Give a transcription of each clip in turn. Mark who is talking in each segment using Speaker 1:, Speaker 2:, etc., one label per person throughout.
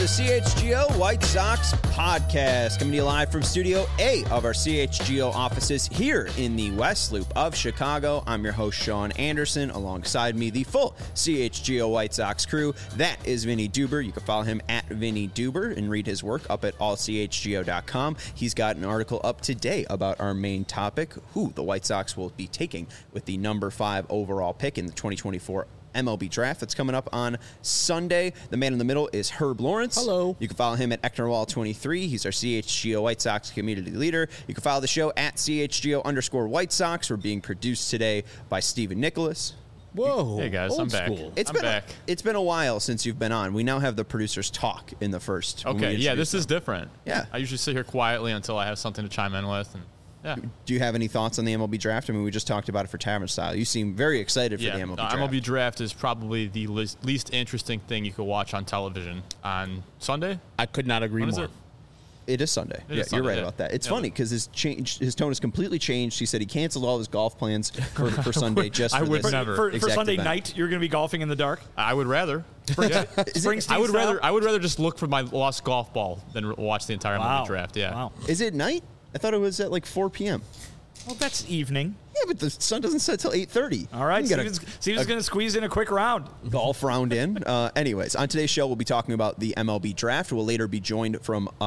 Speaker 1: the CHGO White Sox podcast, coming to you live from Studio A of our CHGO offices here in the West Loop of Chicago. I'm your host, Sean Anderson. Alongside me, the full CHGO White Sox crew. That is Vinny Duber. You can follow him at Vinny Duber and read his work up at allchgo.com. He's got an article up today about our main topic, who the White Sox will be taking with the number 5 overall pick in the 2024 MLB draft that's coming up on Sunday. The man in the middle is Herb Lawrence.
Speaker 2: Hello.
Speaker 1: You can follow him at Ecknerwall23. He's our CHGO White Sox community leader. You can follow the show at CHGO_White Sox. We're being produced today by Stephen Nicholas.
Speaker 2: Whoa.
Speaker 3: Hey guys, I'm back.
Speaker 1: I'm back. It's been a while since you've been on. We now have the producers talk in the first.
Speaker 3: Okay, yeah, this is different.
Speaker 1: Yeah.
Speaker 3: I usually sit here quietly until I have something to chime in with. And yeah.
Speaker 1: Do you have any thoughts on the MLB draft? I mean, we just talked about it for Tavern Style. You seem very excited for the MLB draft.
Speaker 3: MLB draft is probably the least interesting thing you could watch on television on Sunday.
Speaker 2: I could not agree more.
Speaker 1: It is Sunday.
Speaker 3: You're
Speaker 1: right about that. It's funny because his tone has completely changed. He said he canceled all his golf plans for Sunday just for this.
Speaker 4: For Sunday
Speaker 1: event.
Speaker 4: night, you're going to be golfing in the dark?
Speaker 3: I would rather.
Speaker 4: Springsteen
Speaker 3: I would rather just look for my lost golf ball than watch the entire MLB draft. Yeah.
Speaker 4: Wow.
Speaker 1: Is it night? I thought it was at like 4 p.m.
Speaker 4: Well, that's evening.
Speaker 1: Yeah, but the sun doesn't set till 8:30.
Speaker 4: All right, Steven's going to squeeze in a quick round.
Speaker 1: Golf round in. Anyways, on today's show, we'll be talking about the MLB draft. We'll later be joined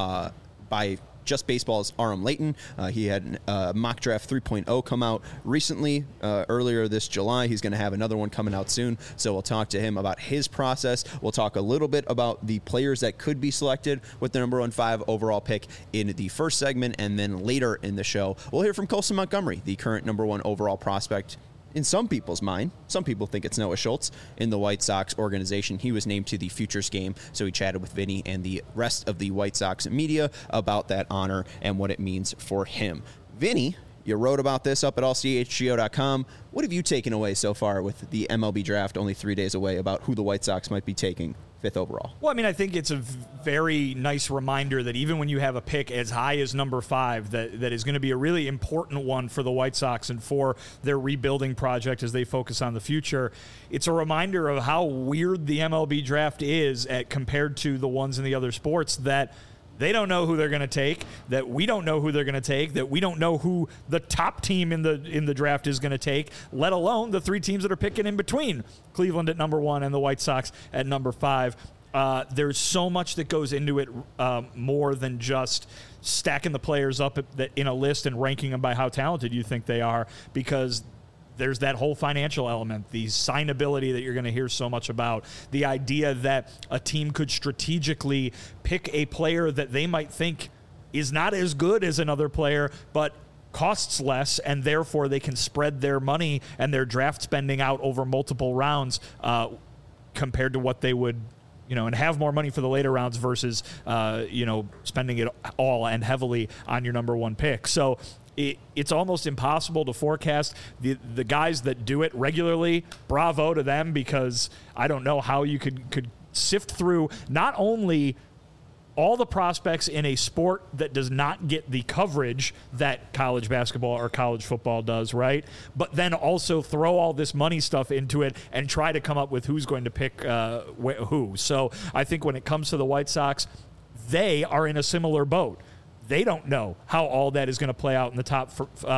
Speaker 1: by Just Baseball's Aram Layton. He had mock draft 3.0 come out recently, earlier this July. He's going to have another one coming out soon, so we'll talk to him about his process. We'll talk a little bit about the players that could be selected with the number 5 overall pick in the first segment, and then later in the show, we'll hear from Colson Montgomery, the current number 1 overall prospect in some people's mind. Some people think it's Noah Schultz in the White Sox organization. He was named to the Futures game, so he chatted with Vinny and the rest of the White Sox media about that honor and what it means for him. Vinny, you wrote about this up at allchgo.com. What have you taken away so far with the MLB draft only 3 days away about who the White Sox might be taking 5th overall?
Speaker 4: Well, I mean, I think it's a very nice reminder that even when you have a pick as high as number 5, that is going to be a really important one for the White Sox and for their rebuilding project as they focus on the future. It's a reminder of how weird the MLB draft is compared to the ones in the other sports, that they don't know who they're going to take, that we don't know who they're going to take, that we don't know who the top team in the draft is going to take, let alone the 3 teams that are picking in between Cleveland at number 1 and the White Sox at number 5. There's so much that goes into it, more than just stacking the players up in a list and ranking them by how talented you think they are, because there's that whole financial element, the signability that you're going to hear so much about, the idea that a team could strategically pick a player that they might think is not as good as another player, but costs less, and therefore they can spread their money and their draft spending out over multiple rounds, compared to what they would, and have more money for the later rounds versus, spending it all and heavily on your number 1 pick. So it's almost impossible to forecast. The guys that do it regularly, bravo to them, because I don't know how you could sift through not only all the prospects in a sport that does not get the coverage that college basketball or college football does, right? But then also throw all this money stuff into it and try to come up with who's going to pick who. So I think when it comes to the White Sox, they are in a similar boat. They don't know how all that is going to play out in the top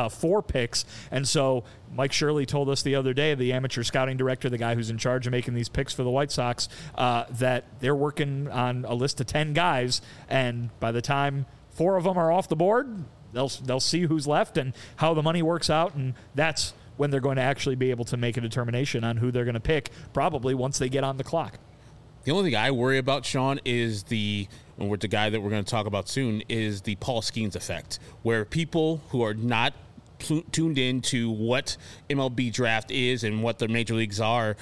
Speaker 4: 4 picks. And so Mike Shirley told us the other day, the amateur scouting director, the guy who's in charge of making these picks for the White Sox, that they're working on a list of 10 guys. And by the time 4 of them are off the board, they'll see who's left and how the money works out. And that's when they're going to actually be able to make a determination on who they're going to pick, probably once they get on the clock.
Speaker 2: The only thing I worry about, Sean, is the guy that we're going to talk about soon, is the Paul Skeens effect, where people who are not tuned in to what MLB draft is and what the major leagues are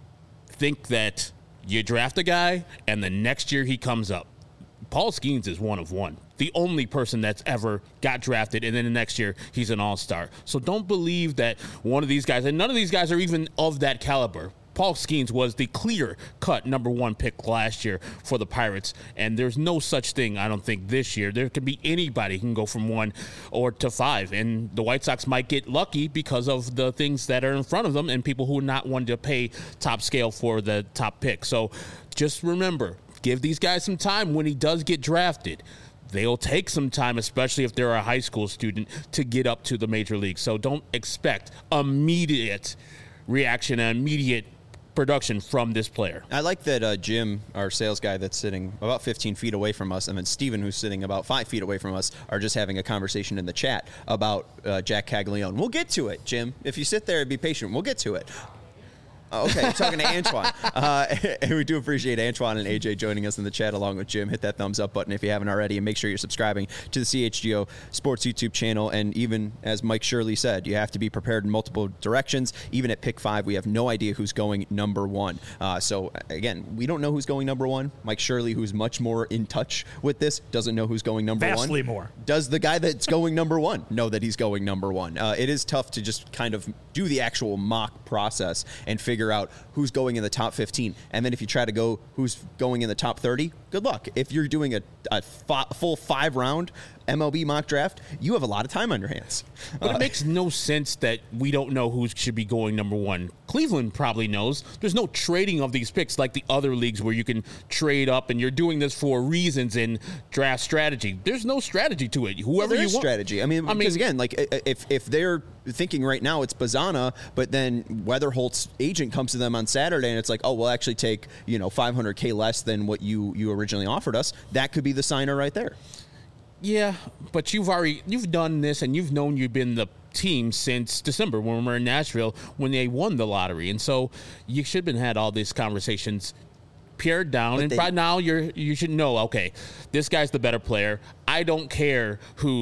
Speaker 2: think that you draft a guy and the next year he comes up. Paul Skeens is one of one. The only person that's ever got drafted, and then the next year he's an all-star. So don't believe that one of these guys, and none of these guys are even of that caliber. Paul Skeens was the clear-cut number 1 pick last year for the Pirates, and there's no such thing, I don't think, this year. There could be anybody who can go from 1 or to 5, and the White Sox might get lucky because of the things that are in front of them and people who are not wanting to pay top scale for the top pick. So just remember, give these guys some time when he does get drafted. They'll take some time, especially if they're a high school student, to get up to the major league. So don't expect immediate reaction and immediate production from this player.
Speaker 1: I like that Jim, our sales guy that's sitting about 15 feet away from us, and then Steven, who's sitting about 5 feet away from us, are just having a conversation in the chat about Jack Caglione. We'll get to it, Jim. If you sit there and be patient, we'll get to it. Okay, I'm talking to Antoine. And we do appreciate Antoine and AJ joining us in the chat along with Jim. Hit that thumbs up button if you haven't already, and make sure you're subscribing to the CHGO Sports YouTube channel. And even as Mike Shirley said, you have to be prepared in multiple directions. Even at pick 5, we have no idea who's going number 1. So again, we don't know who's going number 1. Mike Shirley, who's much more in touch with this, doesn't know who's going number 1.
Speaker 4: Vastly more.
Speaker 1: Does the guy that's going number 1 know that he's going number 1? It is tough to just kind of do the actual mock process and figure out who's going in the top 15. And then if you try to go who's going in the top 30, good luck. If you're doing a full 5-round MLB mock draft, you have a lot of time on your hands.
Speaker 2: But it makes no sense that we don't know who should be going number 1. Cleveland probably knows. There's no trading of these picks like the other leagues where you can trade up, and you're doing this for reasons in draft strategy. There's no strategy to it. Whoever you want.
Speaker 1: Strategy. I mean, because again, like if they're thinking right now it's Bazana, but then Weatherholt's agent comes to them on Saturday and it's like, oh, we'll actually take $500K less than what you originally offered us. That could be the signer right there.
Speaker 2: Yeah, but you've done this, and you've known you've been the team since December when we were in Nashville when they won the lottery, and so you should have had all these conversations pared down, but and by now you should know, okay, this guy's the better player. I don't care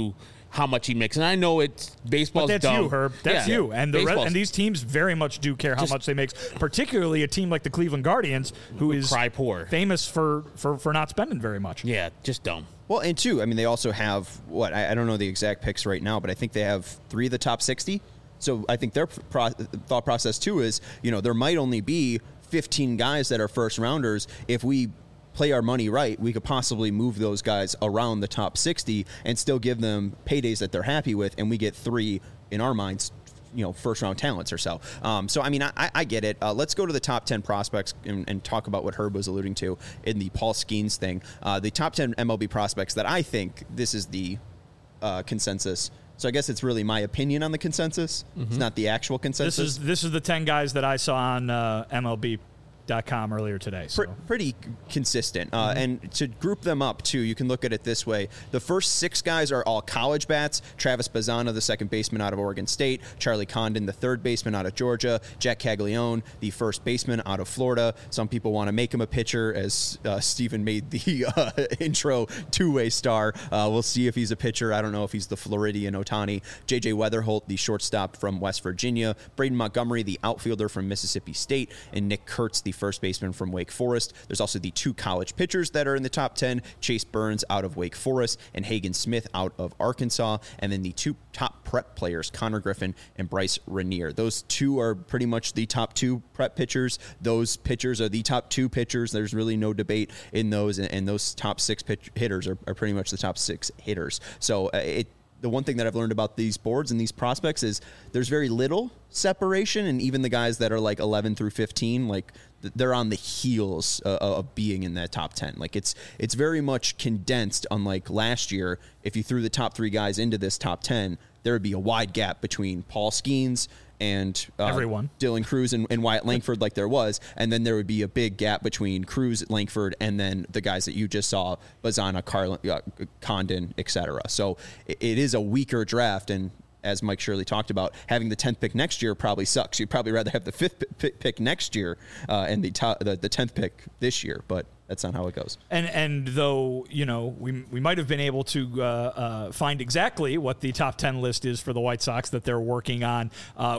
Speaker 2: how much he makes, and I know it's baseball's
Speaker 4: but that's
Speaker 2: dumb.
Speaker 4: You, Herb. That's you, and and these teams very much do care how much they make. Particularly a team like the Cleveland Guardians, who is
Speaker 2: cry poor,
Speaker 4: famous for not spending very much.
Speaker 2: Yeah, just dumb.
Speaker 1: Well, and two, I mean, they also have I don't know the exact picks right now, but I think they have 3 of the top 60. So I think their thought process too is, there might only be 15 guys that are first rounders. If we play our money right, we could possibly move those guys around the top 60 and still give them paydays that they're happy with, and we get 3 in our minds, first round talents or so. So I mean, I get it. Let's go to the top 10 prospects and talk about what Herb was alluding to in the Paul Skeens thing. The top 10 MLB prospects that I think this is the consensus. So I guess it's really my opinion on the consensus. Mm-hmm. It's not the actual consensus.
Speaker 4: This is the 10 guys that I saw on MLB.com earlier today. So.
Speaker 1: Pretty consistent. And to group them up, too, you can look at it this way. The first 6 guys are all college bats. Travis Bazana, the second baseman out of Oregon State. Charlie Condon, the third baseman out of Georgia. Jack Caglione, the first baseman out of Florida. Some people want to make him a pitcher, as Steven made the intro two-way star. We'll see if he's a pitcher. I don't know if he's the Floridian Ohtani. J.J. Weatherholt, the shortstop from West Virginia. Braden Montgomery, the outfielder from Mississippi State. And Nick Kurtz, the first baseman from Wake Forest. There's also the 2 college pitchers that are in the top 10, Chase Burns out of Wake Forest and Hagen Smith out of Arkansas, and then the 2 top prep players, Connor Griffin and Bryce Rainier. Those 2 are pretty much the top 2 prep pitchers. Those pitchers are the top 2 pitchers. There's really no debate in those, and those top 6 hitters are pretty much the top 6 hitters. So the one thing that I've learned about these boards and these prospects is there's very little separation, and even the guys that are like 11 through 15, like they're on the heels of being in that top 10. Like it's very much condensed, unlike last year. If you threw the top 3 guys into this top 10, there would be a wide gap between Paul Skeens and
Speaker 4: everyone,
Speaker 1: Dylan Cruz and Wyatt Langford, like there was, and then there would be a big gap between Cruz, Langford, and then the guys that you just saw, Bazana, Condon, etc. So it is a weaker draft, and as Mike Shirley talked about, having the 10th pick next year probably sucks. You'd probably rather have the 5th pick next year and the 10th pick this year, but that's not how it goes.
Speaker 4: And though, we might have been able to find exactly what the top 10 list is for the White Sox that they're working on.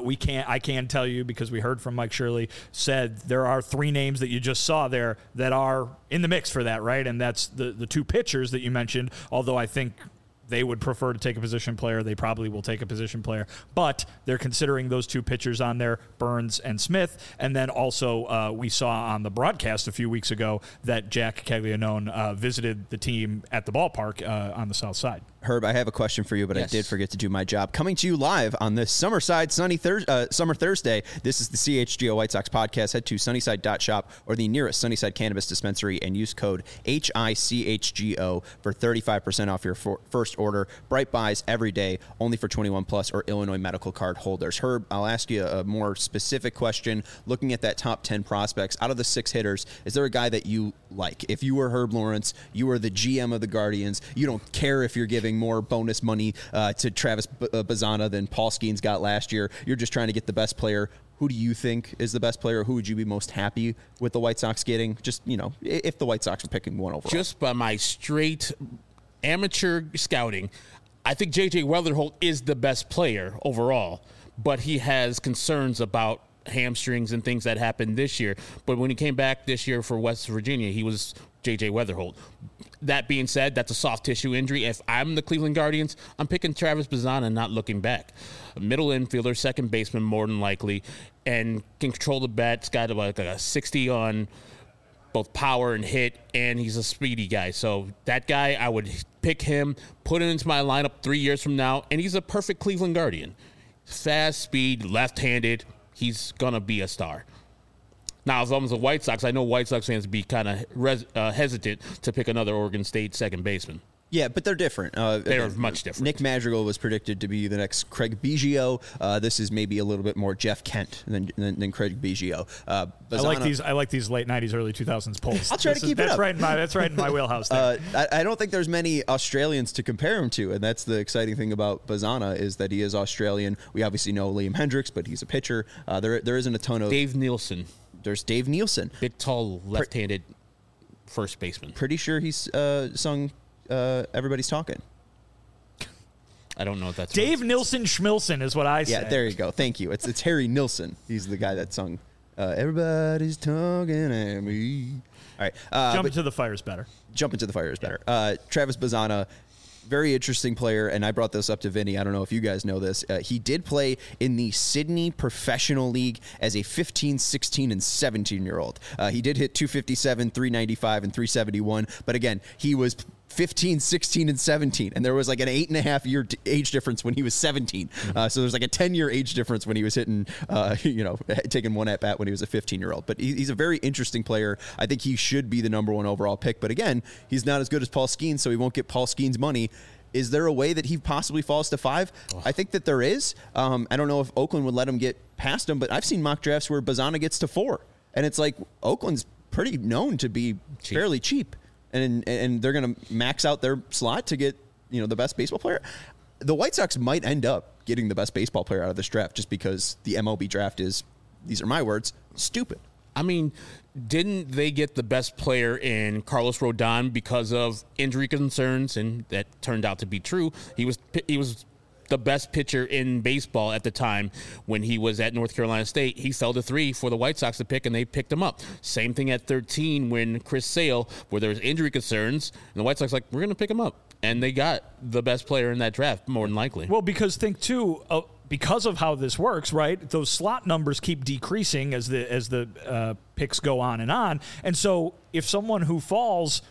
Speaker 4: I can tell you, because we heard from Mike Shirley, said there are 3 names that you just saw there that are in the mix for that, right? And that's the 2 pitchers that you mentioned, although I think they would prefer to take a position player. They probably will take a position player, but they're considering those 2 pitchers on there, Burns and Smith. And then also we saw on the broadcast a few weeks ago that Jack Caglione visited the team at the ballpark on the south side.
Speaker 1: Herb, I have a question for you, but
Speaker 2: Yes.
Speaker 1: I did forget to do my job. Coming to you live on this Summer Thursday. This is the CHGO White Sox podcast. Head to sunnyside.shop or the nearest Sunnyside Cannabis dispensary and use code HICHGO for 35% off your first order. Bright buys every day, only for 21 plus or Illinois medical card holders. Herb, I'll ask you a more specific question. Looking at that top 10 prospects, out of the 6 hitters, is there a guy that you like? If you were Herb Lawrence, you were the GM of the Guardians, you don't care if you're giving more bonus money to Travis Bazzana than Paul Skeens got last year. You're just trying to get the best player. Who do you think is the best player? Who would you be most happy with the White Sox getting? Just, if the White Sox were picking one overall.
Speaker 2: Just by my straight amateur scouting, I think J.J. Weatherholt is the best player overall, but he has concerns about hamstrings and things that happened this year. But when he came back this year for West Virginia, he was J.J. Weatherholt. That being said, that's a soft tissue injury. If I'm the Cleveland Guardians, I'm picking Travis Bazzana, not looking back. A middle infielder, second baseman, more than likely, and can control the bat. It's got like a 60 on both power and hit, and he's a speedy guy. So that guy, I would pick him, put him into my lineup 3 years from now, and he's a perfect Cleveland Guardian. Fast, speed, left-handed. He's going to be a star. Now, as long as the White Sox, I know White Sox fans be kind of hesitant to pick another Oregon State second baseman.
Speaker 1: Yeah, but they're different.
Speaker 2: They're much different.
Speaker 1: Nick Madrigal was predicted to be the next Craig Biggio. This is maybe a little bit more Jeff Kent than Craig Biggio.
Speaker 4: I like these late '90s, early 2000s polls.
Speaker 1: I'll try to keep it up.
Speaker 4: That's right in my wheelhouse. There.
Speaker 1: I don't think there's many Australians to compare him to, and that's the exciting thing about Bazzana is that he is Australian. We obviously know Liam Hendricks, but he's a pitcher. There isn't a ton of
Speaker 2: Dave Nielsen.
Speaker 1: There's Dave Nielsen,
Speaker 2: big, tall, left-handed first baseman.
Speaker 1: Pretty sure he's sung Everybody's Talking.
Speaker 2: I don't know if that's
Speaker 4: Dave Nilsson Schmilson is what I say.
Speaker 1: Yeah, there you go. Thank you. It's Harry Nilsson. He's the guy that sung Everybody's Talking at Me. All right.
Speaker 4: Jump into the fire is better.
Speaker 1: Jump into the fire is better. Travis Bazzana, very interesting player, and I brought this up to Vinny. I don't know if you guys know this. He did play in the Sydney Professional League as a 15, 16, and 17-year-old. He did hit 257, 395, and 371, but again, he was 15, 16, and 17, and there was like an 8.5-year age difference when he was 17. So there's like a 10-year age difference when he was hitting, taking one at bat when he was a 15-year-old. But he's a very interesting player. I think he should be the number 1 overall pick. But again, he's not as good as Paul Skeens, so he won't get Paul Skeens money. Is there a way that he possibly falls to 5? I think that there is. I don't know if Oakland would let him get past him, but I've seen mock drafts where Bazzana gets to 4, and it's like Oakland's pretty known to be fairly cheap. And they're going to max out their slot to get, the best baseball player. The White Sox might end up getting the best baseball player out of this draft just because the MLB draft is, these are my words, stupid.
Speaker 2: I mean, didn't they get the best player in Carlos Rodon because of injury concerns? And that turned out to be true. He was the best pitcher in baseball at the time when he was at North Carolina State. He fell to 3 for the White Sox to pick, and they picked him up. Same thing at 13 when Chris Sale, where there was injury concerns, and the White Sox we're going to pick him up. And they got the best player in that draft, more than likely.
Speaker 4: Well, because think, too, because of how this works, right, those slot numbers keep decreasing as the picks go on. And so if someone who falls,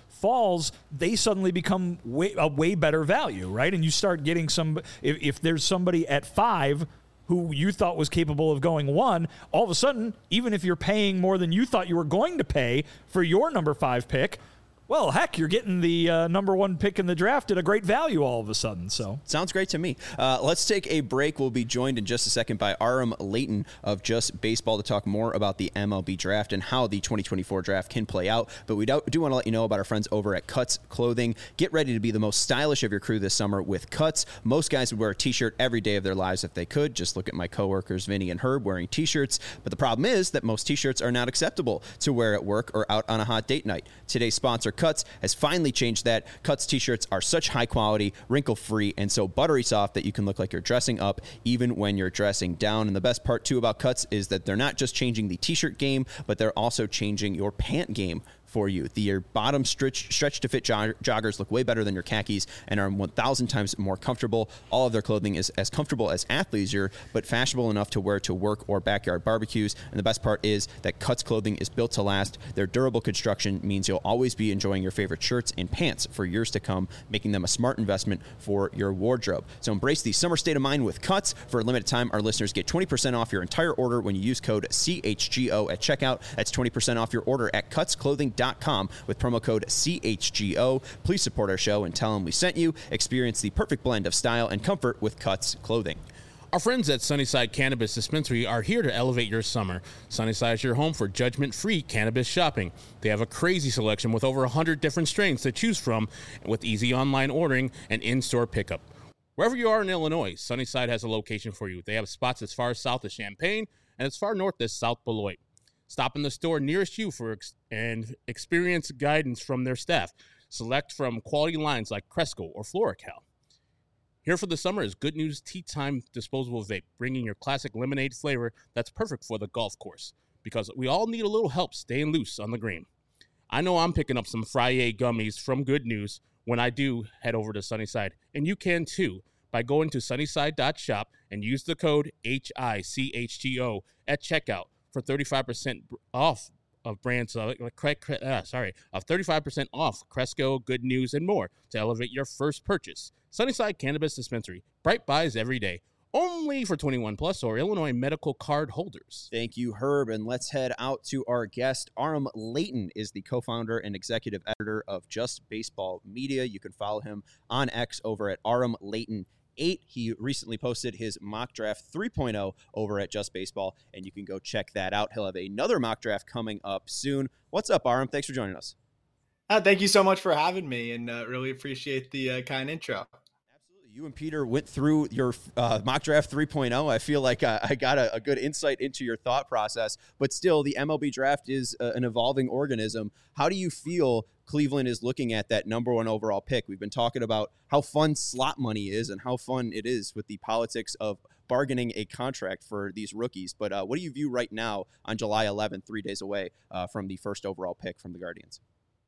Speaker 4: they suddenly become a way better value, right? And you start getting if there's somebody at 5 who you thought was capable of going 1, all of a sudden, even if you're paying more than you thought you were going to pay for your number 5 pick, well, heck, you're getting the number 1 pick in the draft at a great value all of a sudden. So
Speaker 1: sounds great to me. Let's take a break. We'll be joined in just a second by Aram Layton of Just Baseball to talk more about the MLB draft and how the 2024 draft can play out. But we do want to let you know about our friends over at Cuts Clothing. Get ready to be the most stylish of your crew this summer with Cuts. Most guys would wear a T-shirt every day of their lives if they could. Just look at my coworkers, Vinny and Herb, wearing T-shirts. But the problem is that most T-shirts are not acceptable to wear at work or out on a hot date night. Today's sponsor, Cuts, has finally changed that. Cuts T-shirts are such high quality, wrinkle-free, and so buttery soft that you can look like you're dressing up even when you're dressing down. And the best part, too, about Cuts is that they're not just changing the T-shirt game, but they're also changing your pant game for you. The bottom stretch to fit joggers look way better than your khakis and are 1,000 times more comfortable. All of their clothing is as comfortable as athleisure, but fashionable enough to wear to work or backyard barbecues. And the best part is that Cuts clothing is built to last. Their durable construction means you'll always be enjoying your favorite shirts and pants for years to come, making them a smart investment for your wardrobe. So embrace the summer state of mind with Cuts. For a limited time, our listeners get 20% off your entire order when you use code CHGO at checkout. That's 20% off your order at cutsclothing.com with promo code CHGO. Please support our show and tell them we sent you. Experience the perfect blend of style and comfort with Cuts clothing.
Speaker 2: Our friends at Sunnyside Cannabis Dispensary are here to elevate your summer. Sunnyside is your home for judgment-free cannabis shopping. They have a crazy selection with over 100 different strains to choose from, with easy online ordering and in-store pickup. Wherever you are in Illinois, Sunnyside has a location for you. They have spots as far south as Champaign and as far north as South Beloit. Stop in the store nearest you and experience guidance from their staff. Select from quality lines like Cresco or FloraCal. Here for the summer is Good News Tea Time Disposable Vape, bringing your classic lemonade flavor that's perfect for the golf course, because we all need a little help staying loose on the green. I know I'm picking up some Friday gummies from Good News when I do head over to Sunnyside, and you can too by going to sunnyside.shop and use the code HICHGO at checkout for 35% off of brands of 35% off Cresco, Good News, and more to elevate your first purchase. Sunnyside Cannabis Dispensary. Bright buys every day. Only for 21 plus or Illinois medical card holders.
Speaker 1: Thank you, Herb. And let's head out to our guest. Aram Leighton is the co-founder and executive editor of Just Baseball Media. You can follow him on X over at Aram Leighton 8. He recently posted his mock draft 3.0 over at Just Baseball, and you can go check that out. He'll have another mock draft coming up soon. What's up, Aram? Thanks for joining us.
Speaker 5: Thank you so much for having me, and really appreciate the kind intro.
Speaker 1: Absolutely. You and Peter went through your mock draft 3.0. I feel like I got a good insight into your thought process, but still, the MLB draft is an evolving organism. How do you feel Cleveland is looking at that number 1 overall pick? We've been talking about how fun slot money is and how fun it is with the politics of bargaining a contract for these rookies. But what do you view right now on July 11th, 3 days away from the first overall pick from the Guardians?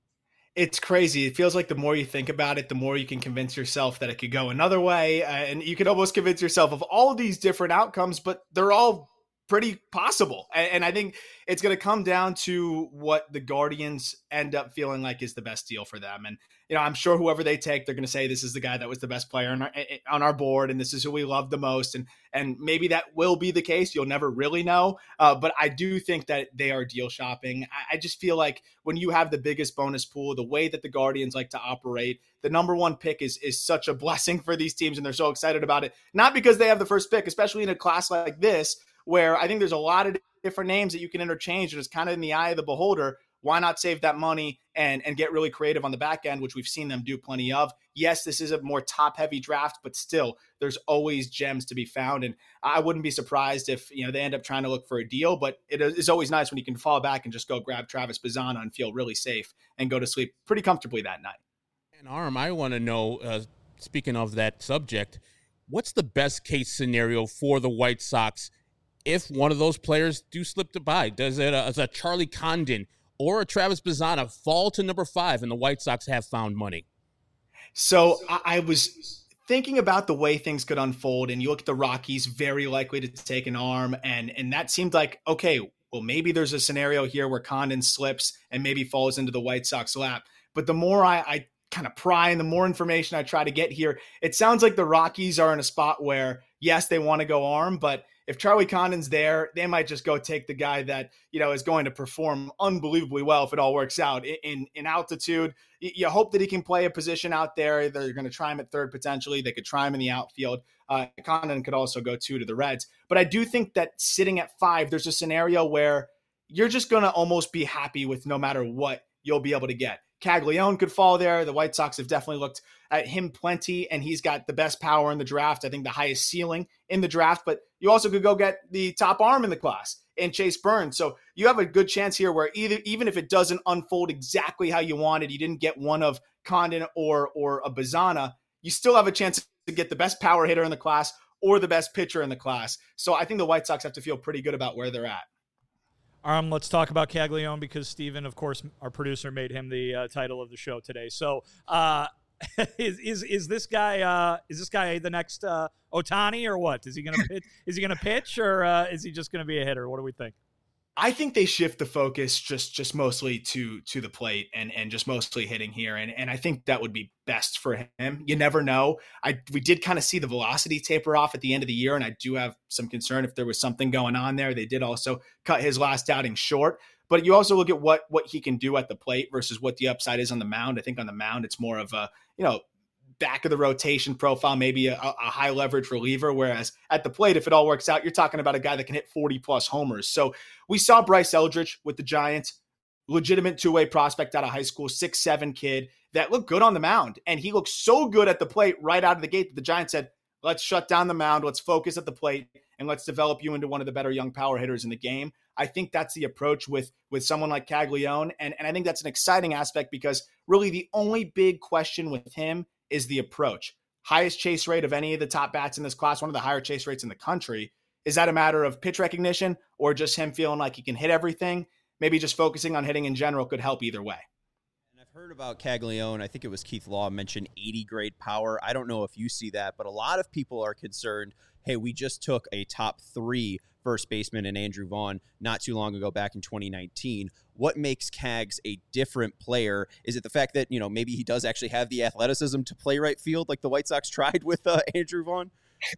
Speaker 5: It's crazy. It feels like the more you think about it, the more you can convince yourself that it could go another way. And you can almost convince yourself of all of these different outcomes, but they're all pretty possible. And I think it's going to come down to what the Guardians end up feeling like is the best deal for them. And, you know, I'm sure whoever they take, they're going to say this is the guy that was the best player on our board, and this is who we love the most. And maybe that will be the case. You'll never really know. But I do think that they are deal shopping. I just feel like when you have the biggest bonus pool, the way that the Guardians like to operate, the number 1 pick is such a blessing for these teams, and they're so excited about it. Not because they have the first pick, especially in a class like this, where I think there's a lot of different names that you can interchange, and it's kind of in the eye of the beholder. Why not save that money and get really creative on the back end, which we've seen them do plenty of? Yes, this is a more top-heavy draft, but still, there's always gems to be found, and I wouldn't be surprised if they end up trying to look for a deal, but it is always nice when you can fall back and just go grab Travis Bazzana and feel really safe and go to sleep pretty comfortably that night.
Speaker 2: And Aram, I want to know, speaking of that subject, what's the best-case scenario for the White Sox if one of those players do slip to buy? Does a Charlie Condon or a Travis Bazzana fall to number 5 and the White Sox have found money?
Speaker 5: So I was thinking about the way things could unfold, and you look at the Rockies, very likely to take an arm, and that seemed like, okay, well, maybe there's a scenario here where Condon slips and maybe falls into the White Sox lap. But the more I kind of pry and the more information I try to get here, it sounds like the Rockies are in a spot where, yes, they want to go arm, but if Charlie Condon's there, they might just go take the guy that, is going to perform unbelievably well if it all works out. In altitude, you hope that he can play a position out there. They're going to try him at third potentially. They could try him in the outfield. Condon could also go 2 to the Reds. But I do think that sitting at 5, there's a scenario where you're just going to almost be happy with no matter what you'll be able to get. Caglione could fall there. The White Sox have definitely looked at him plenty, and he's got the best power in the draft. I think the highest ceiling in the draft, but you also could go get the top arm in the class in Chase Burns. So you have a good chance here where even if it doesn't unfold exactly how you wanted, you didn't get one of Condon or a Bazzana, you still have a chance to get the best power hitter in the class or the best pitcher in the class. So I think the White Sox have to feel pretty good about where they're at.
Speaker 4: Let's talk about Caglione because Steven, of course, our producer, made him the title of the show today. So, is this guy the next Ohtani or what? Is he going to pitch? Is he going to pitch or is he just going to be a hitter? What do we think?
Speaker 5: I think they shift the focus just mostly to the plate and just mostly hitting here. And I think that would be best for him. You never know. We did kind of see the velocity taper off at the end of the year, and I do have some concern if there was something going on there. They did also cut his last outing short. But you also look at what he can do at the plate versus what the upside is on the mound. I think on the mound, it's more of a, back of the rotation profile, maybe a high leverage reliever. Whereas at the plate, if it all works out, you're talking about a guy that can hit 40 plus homers. So we saw Bryce Eldridge with the Giants, legitimate two-way prospect out of high school, 6'7" kid that looked good on the mound. And he looked so good at the plate right out of the gate that the Giants said, let's shut down the mound. Let's focus at the plate and let's develop you into one of the better young power hitters in the game. I think that's the approach with someone like Caglione. And I think that's an exciting aspect because really the only big question with him is the approach. Highest chase rate of any of the top bats in this class, one of the higher chase rates in the country. Is that a matter of pitch recognition or just him feeling like he can hit everything? Maybe just focusing on hitting in general could help either way.
Speaker 1: And I've heard about Caglione. I think it was Keith Law mentioned 80 grade power. I don't know if you see that, but a lot of people are concerned, hey, we just took a top 3 first baseman in Andrew Vaughn not too long ago back in 2019. What makes Cags a different player? Is it the fact that, maybe he does actually have the athleticism to play right field like the White Sox tried with Andrew Vaughn?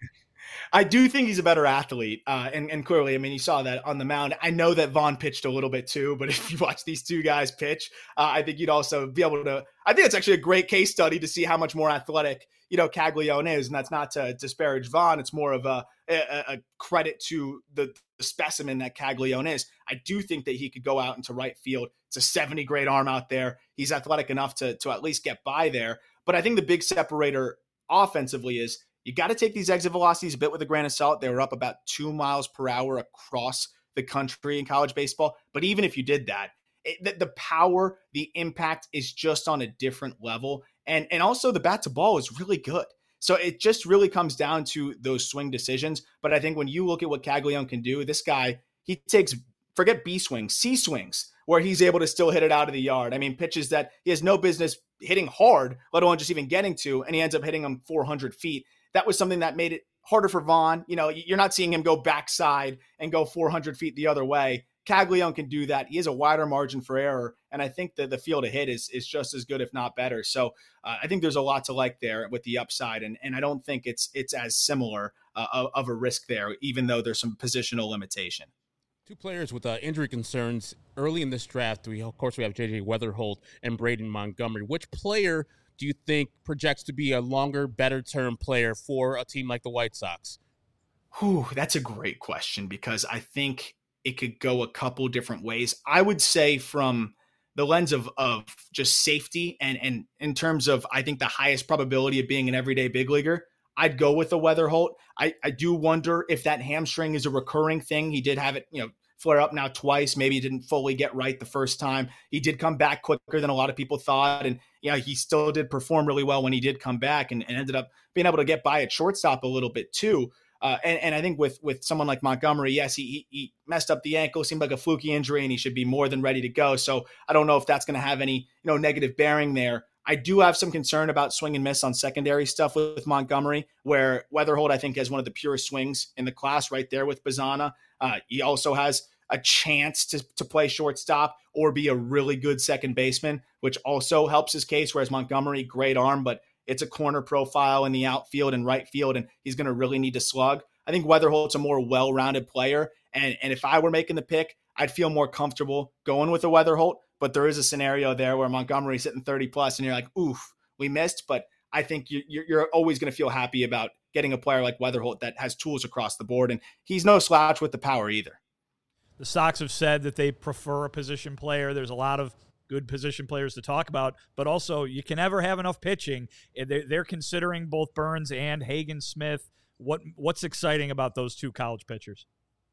Speaker 5: I do think he's a better athlete. And clearly, you saw that on the mound. I know that Vaughn pitched a little bit too, but if you watch these two guys pitch, I think you'd also be able to, I think it's actually a great case study to see how much more athletic, Caglione is. And that's not to disparage Vaughn. It's more of a credit to the specimen that Caglione is. I do think that he could go out into right field. It's a 70 grade arm out there. He's athletic enough to at least get by there. But I think the big separator offensively is, you got to take these exit velocities a bit with a grain of salt. They were up about 2 miles per hour across the country in college baseball. But even if you did that, the power, the impact is just on a different level. And also the bat to ball is really good. So it just really comes down to those swing decisions. But I think when you look at what Caglione can do, this guy, he takes, forget B swings, C swings, where he's able to still hit it out of the yard. Pitches that he has no business hitting hard, let alone just even getting to, and he ends up hitting them 400 feet. That was something that made it harder for Vaughn. You're not seeing him go backside and go 400 feet the other way. Caglione can do that. He has a wider margin for error, and I think that the field to hit is just as good, if not better. So I think there's a lot to like there with the upside, and I don't think it's as similar of a risk there, even though there's some positional limitation.
Speaker 2: 2 players with injury concerns early in this draft. We have J.J. Weatherholt and Braden Montgomery. Which player do you think projects to be a longer, better-term player for a team like the White Sox?
Speaker 5: That's a great question because I think it could go a couple different ways. I would say from the lens of just safety and in terms of, I think, the highest probability of being an everyday big leaguer, I'd go with the Weatherholt. I do wonder if that hamstring is a recurring thing. He did have it, flare up now twice. Maybe he didn't fully get right the first time. He did come back quicker than a lot of people thought. And, he still did perform really well when he did come back and ended up being able to get by at shortstop a little bit too. And I think with someone like Montgomery, yes, he messed up the ankle, seemed like a fluky injury, and he should be more than ready to go. So I don't know if that's going to have any, negative bearing there. I do have some concern about swing and miss on secondary stuff with Montgomery, where Weatherholt, I think, has one of the purest swings in the class right there with Bazana. He also has a chance to play shortstop or be a really good second baseman, which also helps his case, whereas Montgomery, great arm, but it's a corner profile in the outfield and right field, and he's going to really need to slug. I think Weatherholt's a more well-rounded player, and if I were making the pick, I'd feel more comfortable going with a Weatherholt, but there is a scenario there where Montgomery's hitting 30-plus, and you're like, oof, we missed, but I think you're always going to feel happy about getting a player like Weatherholt that has tools across the board, and he's no slouch with the power either.
Speaker 4: The Sox have said that they prefer a position player. There's a lot of good position players to talk about, but also you can never have enough pitching. They're considering both Burns and Hagen Smith. What's exciting about those 2 college pitchers?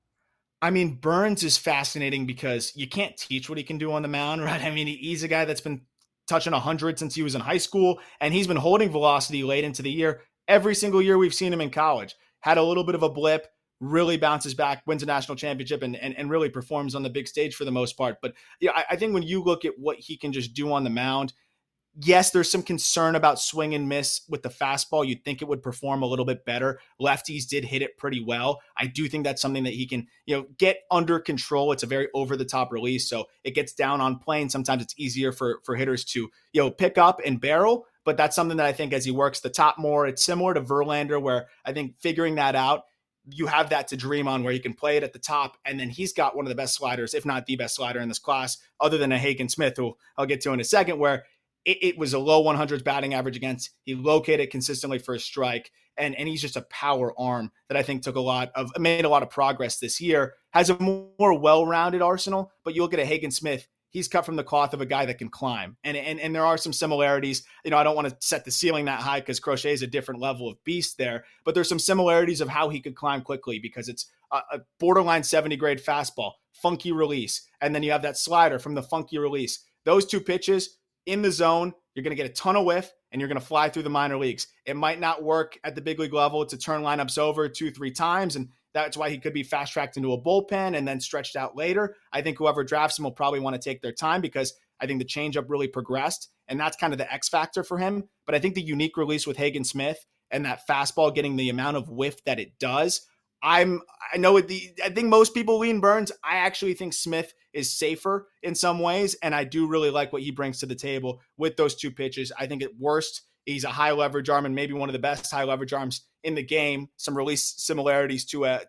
Speaker 5: Burns is fascinating because you can't teach what he can do on the mound, right? He's a guy that's been touching 100 since he was in high school, and he's been holding velocity late into the year. Every single year we've seen him in college. Had a little bit of a blip, really bounces back, wins a national championship, and really performs on the big stage for the most part. But yeah, I think when you look at what he can just do on the mound, yes, there's some concern about swing and miss with the fastball. You'd think it would perform a little bit better. Lefties did hit it pretty well. I do think that's something that he can, get under control. It's a very over the top release, so it gets down on plane. Sometimes it's easier for hitters to, pick up and barrel. But that's something that I think as he works the top more, it's similar to Verlander, where I think figuring that out, you have that to dream on, where you can play it at the top. And then he's got one of the best sliders, if not the best slider in this class, other than a Hagen Smith, who I'll get to in a second, where it was a low 100s batting average against. He located consistently for a strike, and he's just a power arm that I think made a lot of progress this year. Has a more well-rounded arsenal, but you look at a Hagen Smith, he's cut from the cloth of a guy that can climb. And there are some similarities. I don't want to set the ceiling that high because Crochet is a different level of beast there, but there's some similarities of how he could climb quickly, because it's a borderline 70 grade fastball, funky release. And then you have that slider from the funky release. Those two pitches in the zone, you're going to get a ton of whiff, and you're going to fly through the minor leagues. It might not work at the big league level to turn lineups over 2-3 times, and that's why he could be fast-tracked into a bullpen and then stretched out later. I think whoever drafts him will probably want to take their time, because I think the changeup really progressed, and that's kind of the X factor for him. But I think the unique release with Hagen Smith and that fastball getting the amount of whiff that it does, I think most people lean Burns. I actually think Smith is safer in some ways, and I do really like what he brings to the table with those two pitches. I think at worst, he's a high leverage arm, and maybe one of the best high leverage arms in the game. Some release similarities to a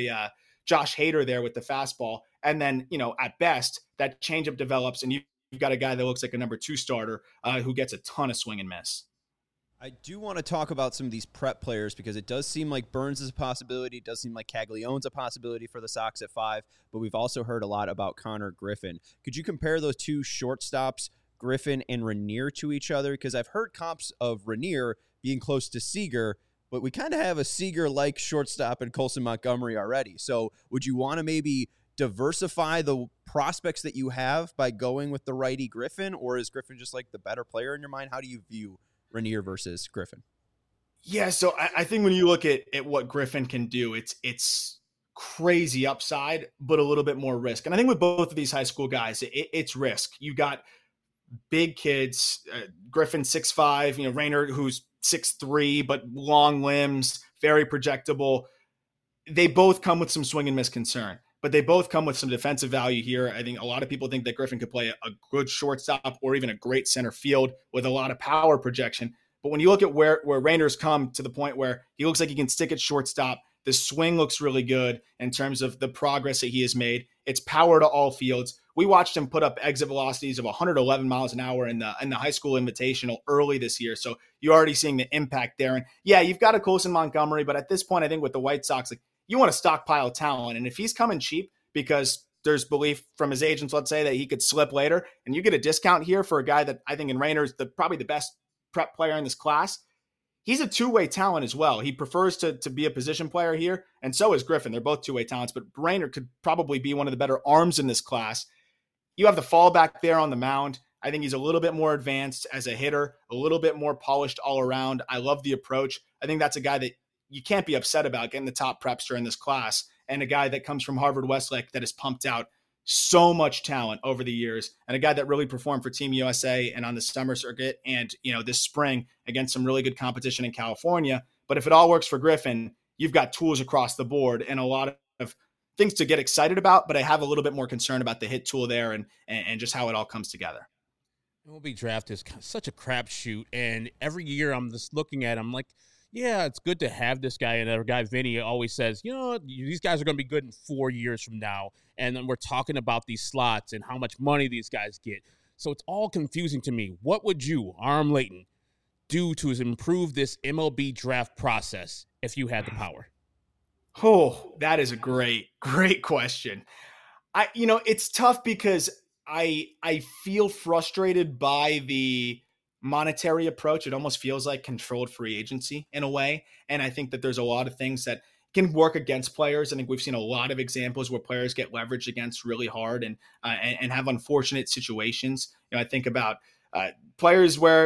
Speaker 5: Josh Hader there with the fastball. And then, at best, that changeup develops, and you've got a guy that looks like a number 2 starter who gets a ton of swing and miss.
Speaker 1: I do want to talk about some of these prep players, because it does seem like Burns is a possibility. It does seem like Caglione's a possibility for the Sox at 5, but we've also heard a lot about Connor Griffin. Could you compare those two shortstops, Griffin and Rainier, to each other? Because I've heard comps of Rainier being close to Seager, but we kind of have a Seager-like shortstop in Colson Montgomery already. So would you want to maybe diversify the prospects that you have by going with the righty Griffin, or is Griffin just like the better player in your mind? How do you view Rainier versus Griffin?
Speaker 5: Yeah, so I think when you look at what Griffin can do, it's crazy upside, but a little bit more risk. And I think with both of these high school guys, it's risk. You got big kids, Griffin 6'5", Rainier who's 6'3", but long limbs, very projectable. They both come with some swing and miss concern, but they both come with some defensive value here. I think a lot of people think that Griffin could play a good shortstop or even a great center field with a lot of power projection. But when you look at where Rainier's come to the point where he looks like he can stick at shortstop, the swing looks really good in terms of the progress that he has made. It's power to all fields. We watched him put up exit velocities of 111 miles an hour in the high school invitational early this year. So you're already seeing the impact there. And yeah, you've got a Colson Montgomery, but at this point, I think with the White Sox, you want to stockpile talent. And if he's coming cheap because there's belief from his agents, let's say, that he could slip later, and you get a discount here for a guy that I think in Rainier's probably the best prep player in this class, he's a two-way talent as well. He prefers to be a position player here, and so is Griffin. They're both two-way talents, but Rainier could probably be one of the better arms in this class. You have the fallback there on the mound. I think he's a little bit more advanced as a hitter, a little bit more polished all around. I love the approach. I think that's a guy that you can't be upset about getting the top prepster in this class, and a guy that comes from Harvard Westlake that has pumped out so much talent over the years, and a guy that really performed for Team USA and on the summer circuit and, this spring against some really good competition in California. But if it all works for Griffin, you've got tools across the board and a lot of things to get excited about, but I have a little bit more concern about the hit tool there and just how it all comes together.
Speaker 2: MLB draft is such a crapshoot, and every year I'm just looking at him like, yeah, it's good to have this guy. And our guy Vinny always says, these guys are going to be good in 4 years from now. And then we're talking about these slots and how much money these guys get. So it's all confusing to me. What would you, Aram Leighton, do to improve this MLB draft process if you had the power?
Speaker 5: Oh, that is a great question. It's tough because I feel frustrated by the monetary approach. It almost feels like controlled free agency in a way. And I think that there's a lot of things that can work against players. I think we've seen a lot of examples where players get leveraged against really hard and have unfortunate situations. I think about players where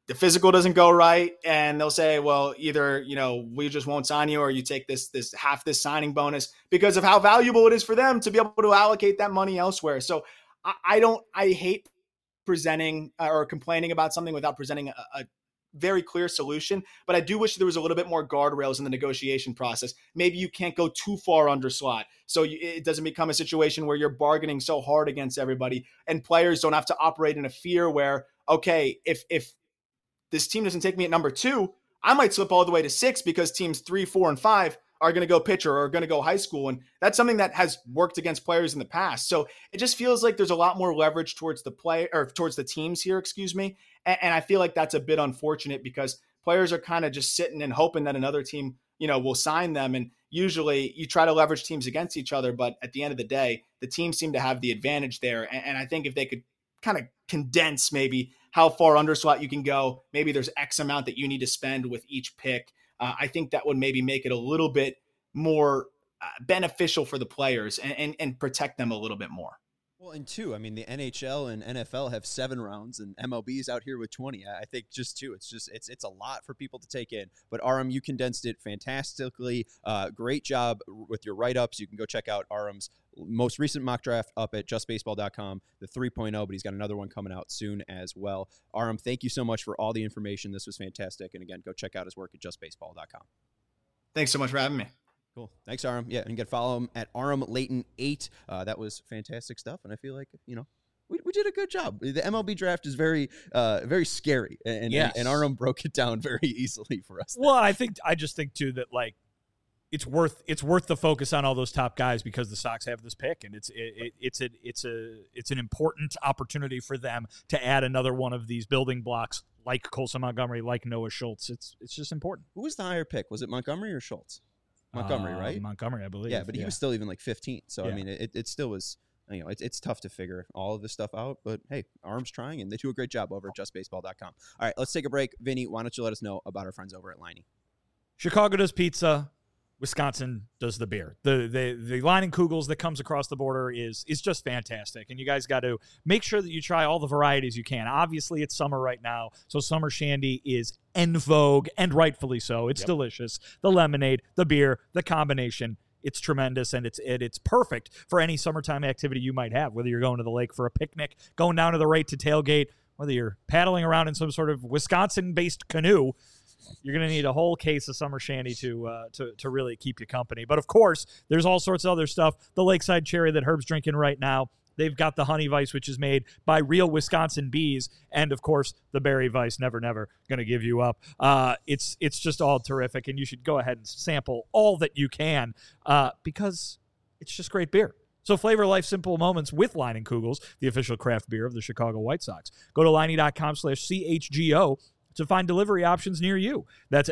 Speaker 5: the physical doesn't go right, and they'll say, well, either, we just won't sign you, or you take this half this signing bonus, because of how valuable it is for them to be able to allocate that money elsewhere. So I hate presenting or complaining about something without presenting a very clear solution. But I do wish there was a little bit more guardrails in the negotiation process. Maybe you can't go too far under slot, so it doesn't become a situation where you're bargaining so hard against everybody, and players don't have to operate in a fear where, okay, if this team doesn't take me at number 2, I might slip all the way to 6 because teams 3, 4, and 5 are going to go pitcher or are going to go high school. And that's something that has worked against players in the past. So it just feels like there's a lot more leverage towards the towards the teams here, And I feel like that's a bit unfortunate, because players are kind of just sitting and hoping that another team, will sign them. And usually you try to leverage teams against each other, but at the end of the day, the teams seem to have the advantage there. And I think if they could kind of condense maybe how far under slot you can go, maybe there's X amount that you need to spend with each pick. I think that would maybe make it a little bit more beneficial for the players and protect them a little bit more.
Speaker 1: Well, and two, I mean, the NHL and NFL have 7 rounds, and MLB's out here with 20. I think just 2. It's a lot for people to take in. But Aram, you condensed it fantastically. Great job with your write-ups. You can go check out Aram's most recent mock draft up at justbaseball.com, the 3.0, but he's got another one coming out soon as well. Aram, thank you so much for all the information. This was fantastic. And again, go check out his work at justbaseball.com. Thanks
Speaker 5: so much for having me.
Speaker 1: Cool. Thanks, Aram. Yeah, and you can follow him at Aram Layton 8. That was fantastic stuff, and I feel like, we did a good job. The MLB draft is very scary, and Aram broke it down very easily for us.
Speaker 4: Well, I just think too that it's worth the focus on all those top guys, because the Sox have this pick, and it's an important opportunity for them to add another one of these building blocks, like Colson Montgomery, like Noah Schultz. It's just important.
Speaker 1: Who was the higher pick? Was it Montgomery or Schultz? Montgomery, right?
Speaker 4: Montgomery, I believe.
Speaker 1: Yeah, but he was still even like 15. So, yeah. I mean, it still was, it's tough to figure all of this stuff out. But, hey, Aram's trying, and they do a great job over at justbaseball.com. All right, let's take a break. Vinny, why don't you let us know about our friends over at Leinie?
Speaker 4: Chicago does pizza. Wisconsin does the beer. The Leinenkugels that comes across the border is just fantastic. And you guys got to make sure that you try all the varieties you can. Obviously, it's summer right now, so summer shandy is en vogue, and rightfully so. It's delicious. The lemonade, the beer, the combination, it's tremendous, and it's perfect for any summertime activity you might have, whether you're going to the lake for a picnic, going down to the right to tailgate, whether you're paddling around in some sort of Wisconsin-based canoe. You're going to need a whole case of summer shandy to really keep you company. But, of course, there's all sorts of other stuff. The Lakeside Cherry that Herb's drinking right now. They've got the Honey Vice, which is made by real Wisconsin bees. And, of course, the Berry Vice, never going to give you up. It's just all terrific, and you should go ahead and sample all that you can because it's just great beer. So flavor life's simple moments with Leinenkugels, the official craft beer of the Chicago White Sox. Go to Leinie.com/CHGO to find delivery options near you. That's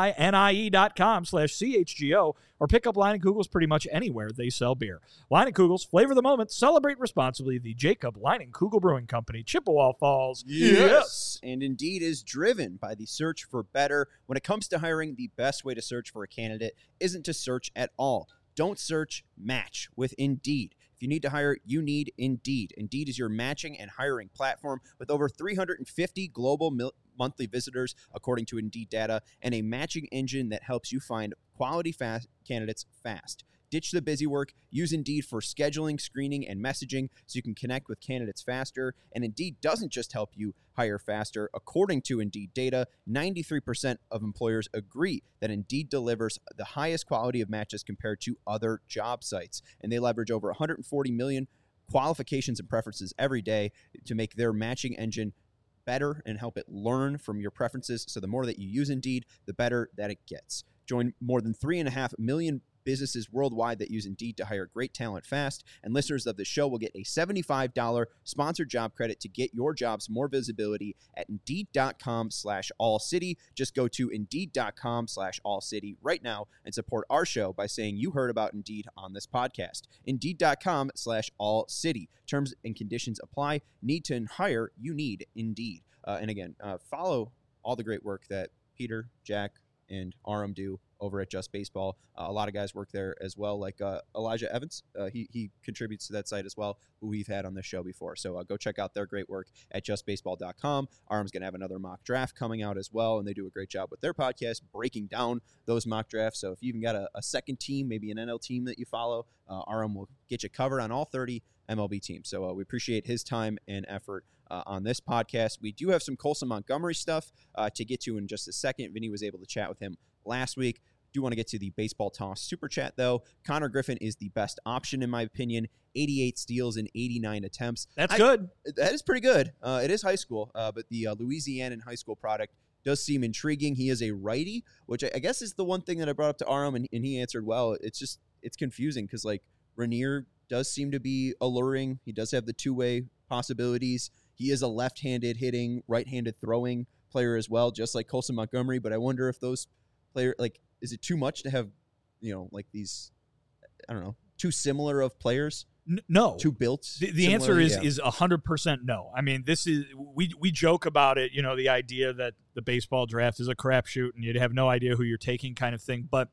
Speaker 4: LEINIE.com/CHGO, or pick up Leinenkugels pretty much anywhere they sell beer. Leinenkugels, flavor the moment, celebrate responsibly. The Jacob Leinenkugel Brewing Company, Chippewa Falls.
Speaker 1: Yes. And Indeed is driven by the search for better. When it comes to hiring, the best way to search for a candidate isn't to search at all. Don't search, match with Indeed. If you need to hire, you need Indeed. Indeed is your matching and hiring platform with over 350 global monthly visitors, according to Indeed data, and a matching engine that helps you find quality candidates fast. Ditch the busy work. Use Indeed for scheduling, screening, and messaging so you can connect with candidates faster. And Indeed doesn't just help you hire faster. According to Indeed data, 93% of employers agree that Indeed delivers the highest quality of matches compared to other job sites. And they leverage over 140 million qualifications and preferences every day to make their matching engine better and help it learn from your preferences. So the more that you use Indeed, the better that it gets. Join more than 3.5 million businesses worldwide that use Indeed to hire great talent fast, and listeners of the show will get a $75 sponsored job credit to get your jobs more visibility at Indeed.com/AllCity. Just go to Indeed.com/AllCity right now and support our show by saying you heard about Indeed on this podcast. Indeed.com/AllCity. Terms and conditions apply. Need to hire? You need Indeed. And again, follow all the great work that Peter, Jack, and Aram do over at Just Baseball. A lot of guys work there as well, like Elijah Evans. He contributes to that site as well, who we've had on this show before. So go check out their great work at justbaseball.com. Arm's going to have another mock draft coming out as well, and they do a great job with their podcast breaking down those mock drafts. So if you even got a second team, maybe an NL team that you follow, Arm will get you covered on all 30 MLB teams. So we appreciate his time and effort on this podcast. We do have some Colson Montgomery stuff to get to in just a second. Vinny was able to chat with him last week. Do want to get to the Baseball Toss Super Chat, though. Connor Griffin is the best option, in my opinion. 88 steals in 89 attempts.
Speaker 4: That's good.
Speaker 1: That is pretty good. It is high school, but the Louisianan high school product does seem intriguing. He is a righty, which I guess is the one thing that I brought up to Aram, and he answered well. It's confusing because, like, Rainier does seem to be alluring. He does have the two-way possibilities. He is a left-handed hitting, right-handed throwing player as well, just like Colson Montgomery. But I wonder if those players, like, is it too much to have, like these, I don't know, too similar of players?
Speaker 4: No.
Speaker 1: Too built?
Speaker 4: The answer is 100% no. I mean, this is, we joke about it, the idea that the baseball draft is a crapshoot and you'd have no idea who you're taking kind of thing. But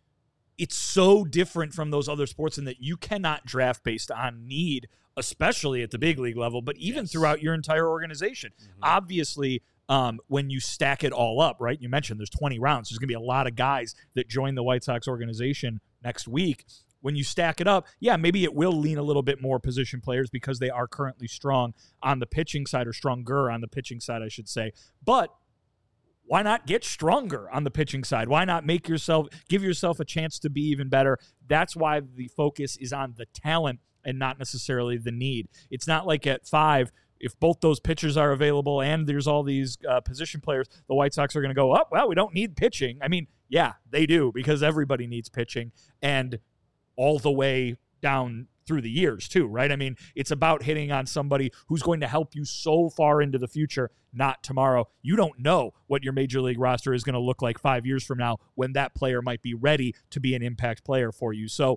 Speaker 4: it's so different from those other sports in that you cannot draft based on need, especially at the big league level, but even throughout your entire organization. Mm-hmm. Obviously, when you stack it all up, right? You mentioned there's 20 rounds. There's going to be a lot of guys that join the White Sox organization next week. When you stack it up, maybe it will lean a little bit more position players because they are currently strong on the pitching side, or stronger on the pitching side, I should say. But why not get stronger on the pitching side? Why not give yourself a chance to be even better? That's why the focus is on the talent and not necessarily the need. It's not like at 5, if both those pitchers are available and there's all these position players, the White Sox are going to go, oh, well, we don't need pitching. I mean, yeah, they do, because everybody needs pitching, and all the way down through the years too, right? I mean, it's about hitting on somebody who's going to help you so far into the future, not tomorrow. You don't know what your major league roster is going to look like 5 years from now when that player might be ready to be an impact player for you. So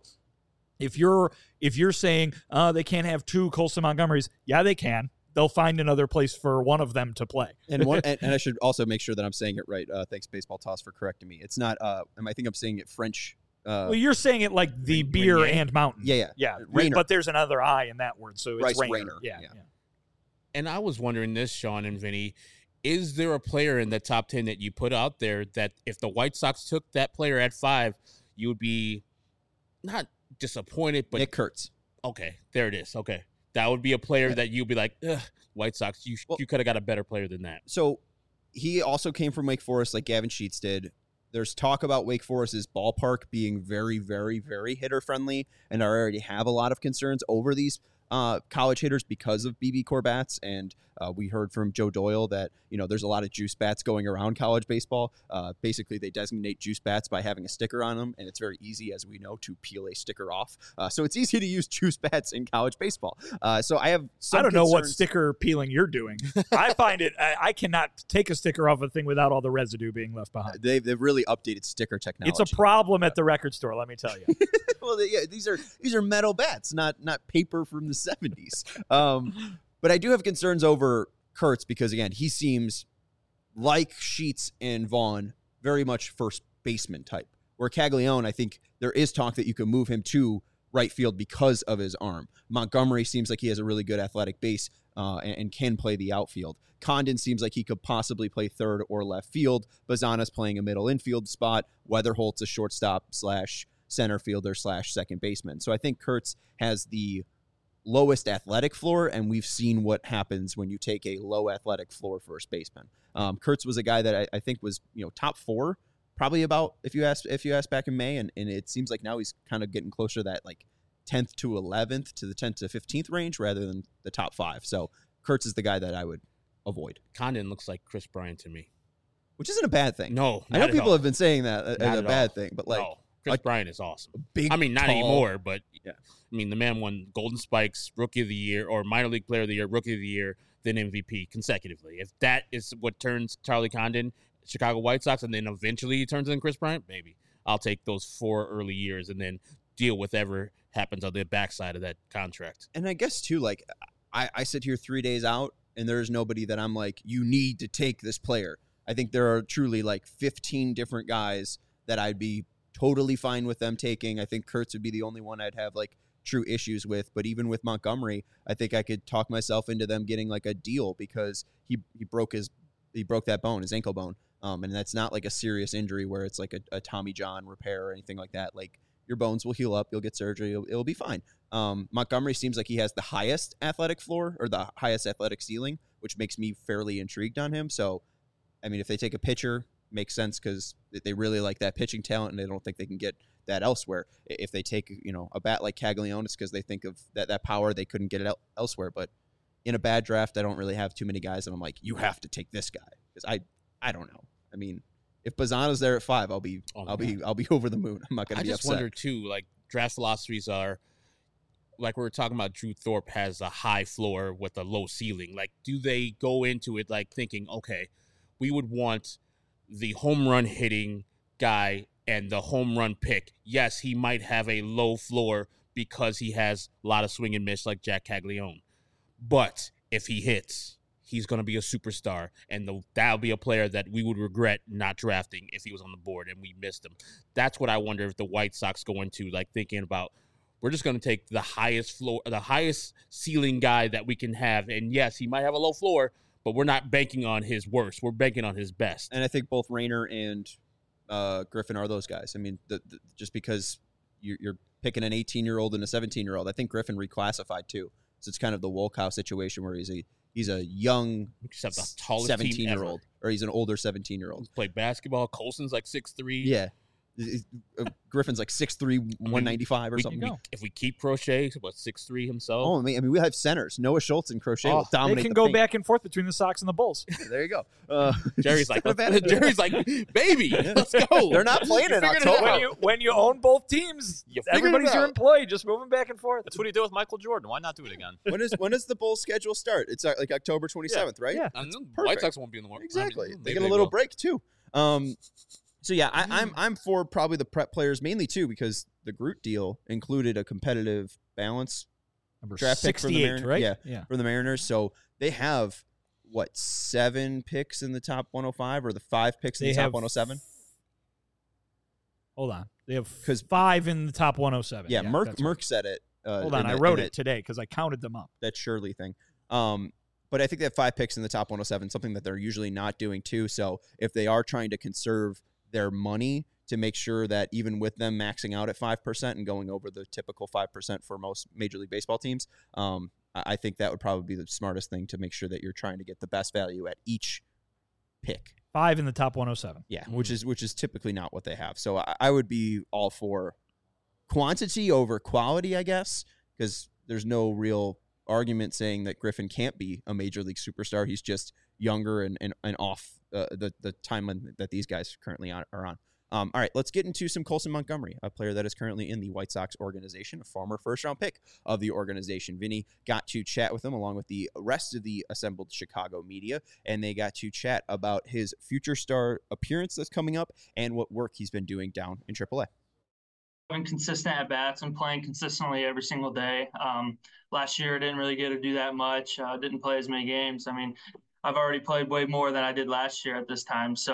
Speaker 4: if you're saying they can't have 2 Colson Montgomerys, yeah, they can. They'll find another place for one of them to play.
Speaker 1: And I should also make sure that I'm saying it right. Thanks, Baseball Toss, for correcting me. It's not. I think I'm saying it French.
Speaker 4: Well, you're saying it like the beer and mountain.
Speaker 1: Yeah.
Speaker 4: Rainer. But there's another I in that word, so it's Rainer. Yeah.
Speaker 2: And I was wondering this, Sean and Vinny, is there a player in the top 10 that you put out there that if the White Sox took that player at 5, you would be not disappointed, but
Speaker 1: Nick Kurtz.
Speaker 2: Okay, there it is. Okay. That would be a player that you'd be like, White Sox, you could have got a better player than that.
Speaker 1: So he also came from Wake Forest like Gavin Sheets did. There's talk about Wake Forest's ballpark being very, very, very hitter-friendly, and I already have a lot of concerns over these college hitters because of BB Corbats, and we heard from Joe Doyle that there's a lot of juice bats going around college baseball. Basically, they designate juice bats by having a sticker on them, and it's very easy, as we know, to peel a sticker off. So it's easy to use juice bats in college baseball. So I have some
Speaker 4: I don't
Speaker 1: concerns.
Speaker 4: know what sticker peeling you're doing. I find it I cannot take a sticker off a thing without all the residue being left behind.
Speaker 1: They've really updated sticker technology.
Speaker 4: It's a problem at the record store, let me tell you.
Speaker 1: Well, these are metal bats, not paper from the 70s. But I do have concerns over Kurtz because, again, he seems like Sheets and Vaughn, very much first baseman type. Where Caglione, I think there is talk that you can move him to right field because of his arm. Montgomery seems like he has a really good athletic base and can play the outfield. Condon seems like he could possibly play third or left field. Bazana's playing a middle infield spot. Weatherholt's a shortstop / center fielder / second baseman. So I think Kurtz has the lowest athletic floor, and we've seen what happens when you take a low athletic floor first baseman. Kurtz was a guy that I think was top 4, probably about if you asked back in May, and it seems like now he's kind of getting closer to that like 10th to 11th to the 10th to 15th range rather than the top 5. So Kurtz is the guy that I would avoid.
Speaker 2: Condon looks like Chris Bryant to me,
Speaker 1: which isn't a bad thing.
Speaker 2: No,
Speaker 1: I know people have been saying that as a bad thing, but like.
Speaker 2: No. Chris Bryant is awesome.
Speaker 1: Big,
Speaker 2: not
Speaker 1: tall,
Speaker 2: anymore, but
Speaker 1: yeah.
Speaker 2: I mean, the man won Golden Spikes, Rookie of the Year, or Minor League Player of the Year, Rookie of the Year, then MVP consecutively. If that is what turns Charlie Condon, Chicago White Sox, and then eventually he turns into Chris Bryant, maybe I'll take those 4 early years and then deal with whatever happens on the backside of that contract.
Speaker 1: And I guess, too, like, I sit here 3 days out, and there's nobody that I'm like, you need to take this player. I think there are truly like 15 different guys that I'd be totally fine with them taking. I think Kurtz would be the only one I'd have like true issues with. But even with Montgomery, I think I could talk myself into them getting like a deal because he broke that bone, his ankle bone. And that's not like a serious injury where it's like a Tommy John repair or anything like that. Like your bones will heal up, you'll get surgery, it'll be fine. Montgomery seems like he has the highest athletic floor or the highest athletic ceiling, which makes me fairly intrigued on him. So, I mean, if they take a pitcher, makes sense because they really like that pitching talent and they don't think they can get that elsewhere. If they take, a bat like Caglione, it's because they think of that power, they couldn't get it elsewhere. But in a bad draft, I don't really have too many guys and I'm like, you have to take this guy because I don't know. I mean, if Bazzano's there at 5, I'll be over the moon. I'm not going to be upset.
Speaker 2: I just wonder too, like draft philosophies are like we were talking about. Drew Thorpe has a high floor with a low ceiling. Like, do they go into it like thinking, okay, we would want the home run hitting guy and the home run pick? Yes, he might have a low floor because he has a lot of swing and miss like Jack Caglione, but if he hits, he's going to be a superstar, and that'll be a player that we would regret not drafting if he was on the board and we missed him. That's what I wonder if the White Sox go into, like thinking about, we're just going to take the highest floor, the highest ceiling guy that we can have. And yes, he might have a low floor, but we're not banking on his worst. We're banking on his best.
Speaker 1: And I think both Rayner and Griffin are those guys. I mean, just because you're picking an 18-year-old and a 17-year-old, I think Griffin reclassified too. So it's kind of the Wolkow situation where he's a young 17-year-old, or he's an older 17-year-old.
Speaker 2: Played basketball. Colson's like 6'3".
Speaker 1: Yeah. Griffin's like 6'3", 195 or something.
Speaker 2: If we keep Crochet, 6'3" himself.
Speaker 1: Oh, I mean, we have centers. Noah Schultz and Crochet will dominate.
Speaker 4: They can go back and forth between the Sox and the Bulls.
Speaker 1: There you go.
Speaker 2: Jerry's like, baby, let's go.
Speaker 1: They're not playing in October.
Speaker 4: When you own both teams, everybody's your employee, just moving back and forth.
Speaker 3: That's what he did with Michael Jordan. Why not do it again?
Speaker 1: When does the Bulls schedule start? It's like October 27th, right?
Speaker 4: Yeah.
Speaker 2: White Sox won't be in the war.
Speaker 1: Exactly. They get a little break too. So yeah, I'm for probably the prep players mainly too because the Groot deal included a competitive balance draft pick for the Mariners,
Speaker 4: right?
Speaker 1: Yeah, for the Mariners. So they have 7 picks in the top 105 or the 5 picks in the top 107.
Speaker 4: Hold on, they have 5 in the top 107.
Speaker 1: Yeah, Merck said it.
Speaker 4: Hold on, I wrote it today because I counted them up.
Speaker 1: That Shirley thing. But I think they have 5 picks in the top 107, something that they're usually not doing too. So if they are trying to conserve their money to make sure that even with them maxing out at 5% and going over the typical 5% for most Major League Baseball teams, I think that would probably be the smartest thing to make sure that you're trying to get the best value at each pick.
Speaker 4: 5 in the top 107.
Speaker 1: Yeah, which is typically not what they have. So I would be all for quantity over quality, I guess, because there's no real argument saying that Griffin can't be a Major League superstar. He's just younger and off the timeline that these guys currently are on. All right, let's get into some Colson Montgomery, a player that is currently in the White Sox organization, a former first-round pick of the organization. Vinny got to chat with him along with the rest of the assembled Chicago media, and they got to chat about his future star appearance that's coming up and what work he's been doing down in AAA.
Speaker 6: Having consistent at bats and playing consistently every single day. Last year, I didn't really get to do that much. Didn't play as many games. I mean, I've already played way more than I did last year at this time. So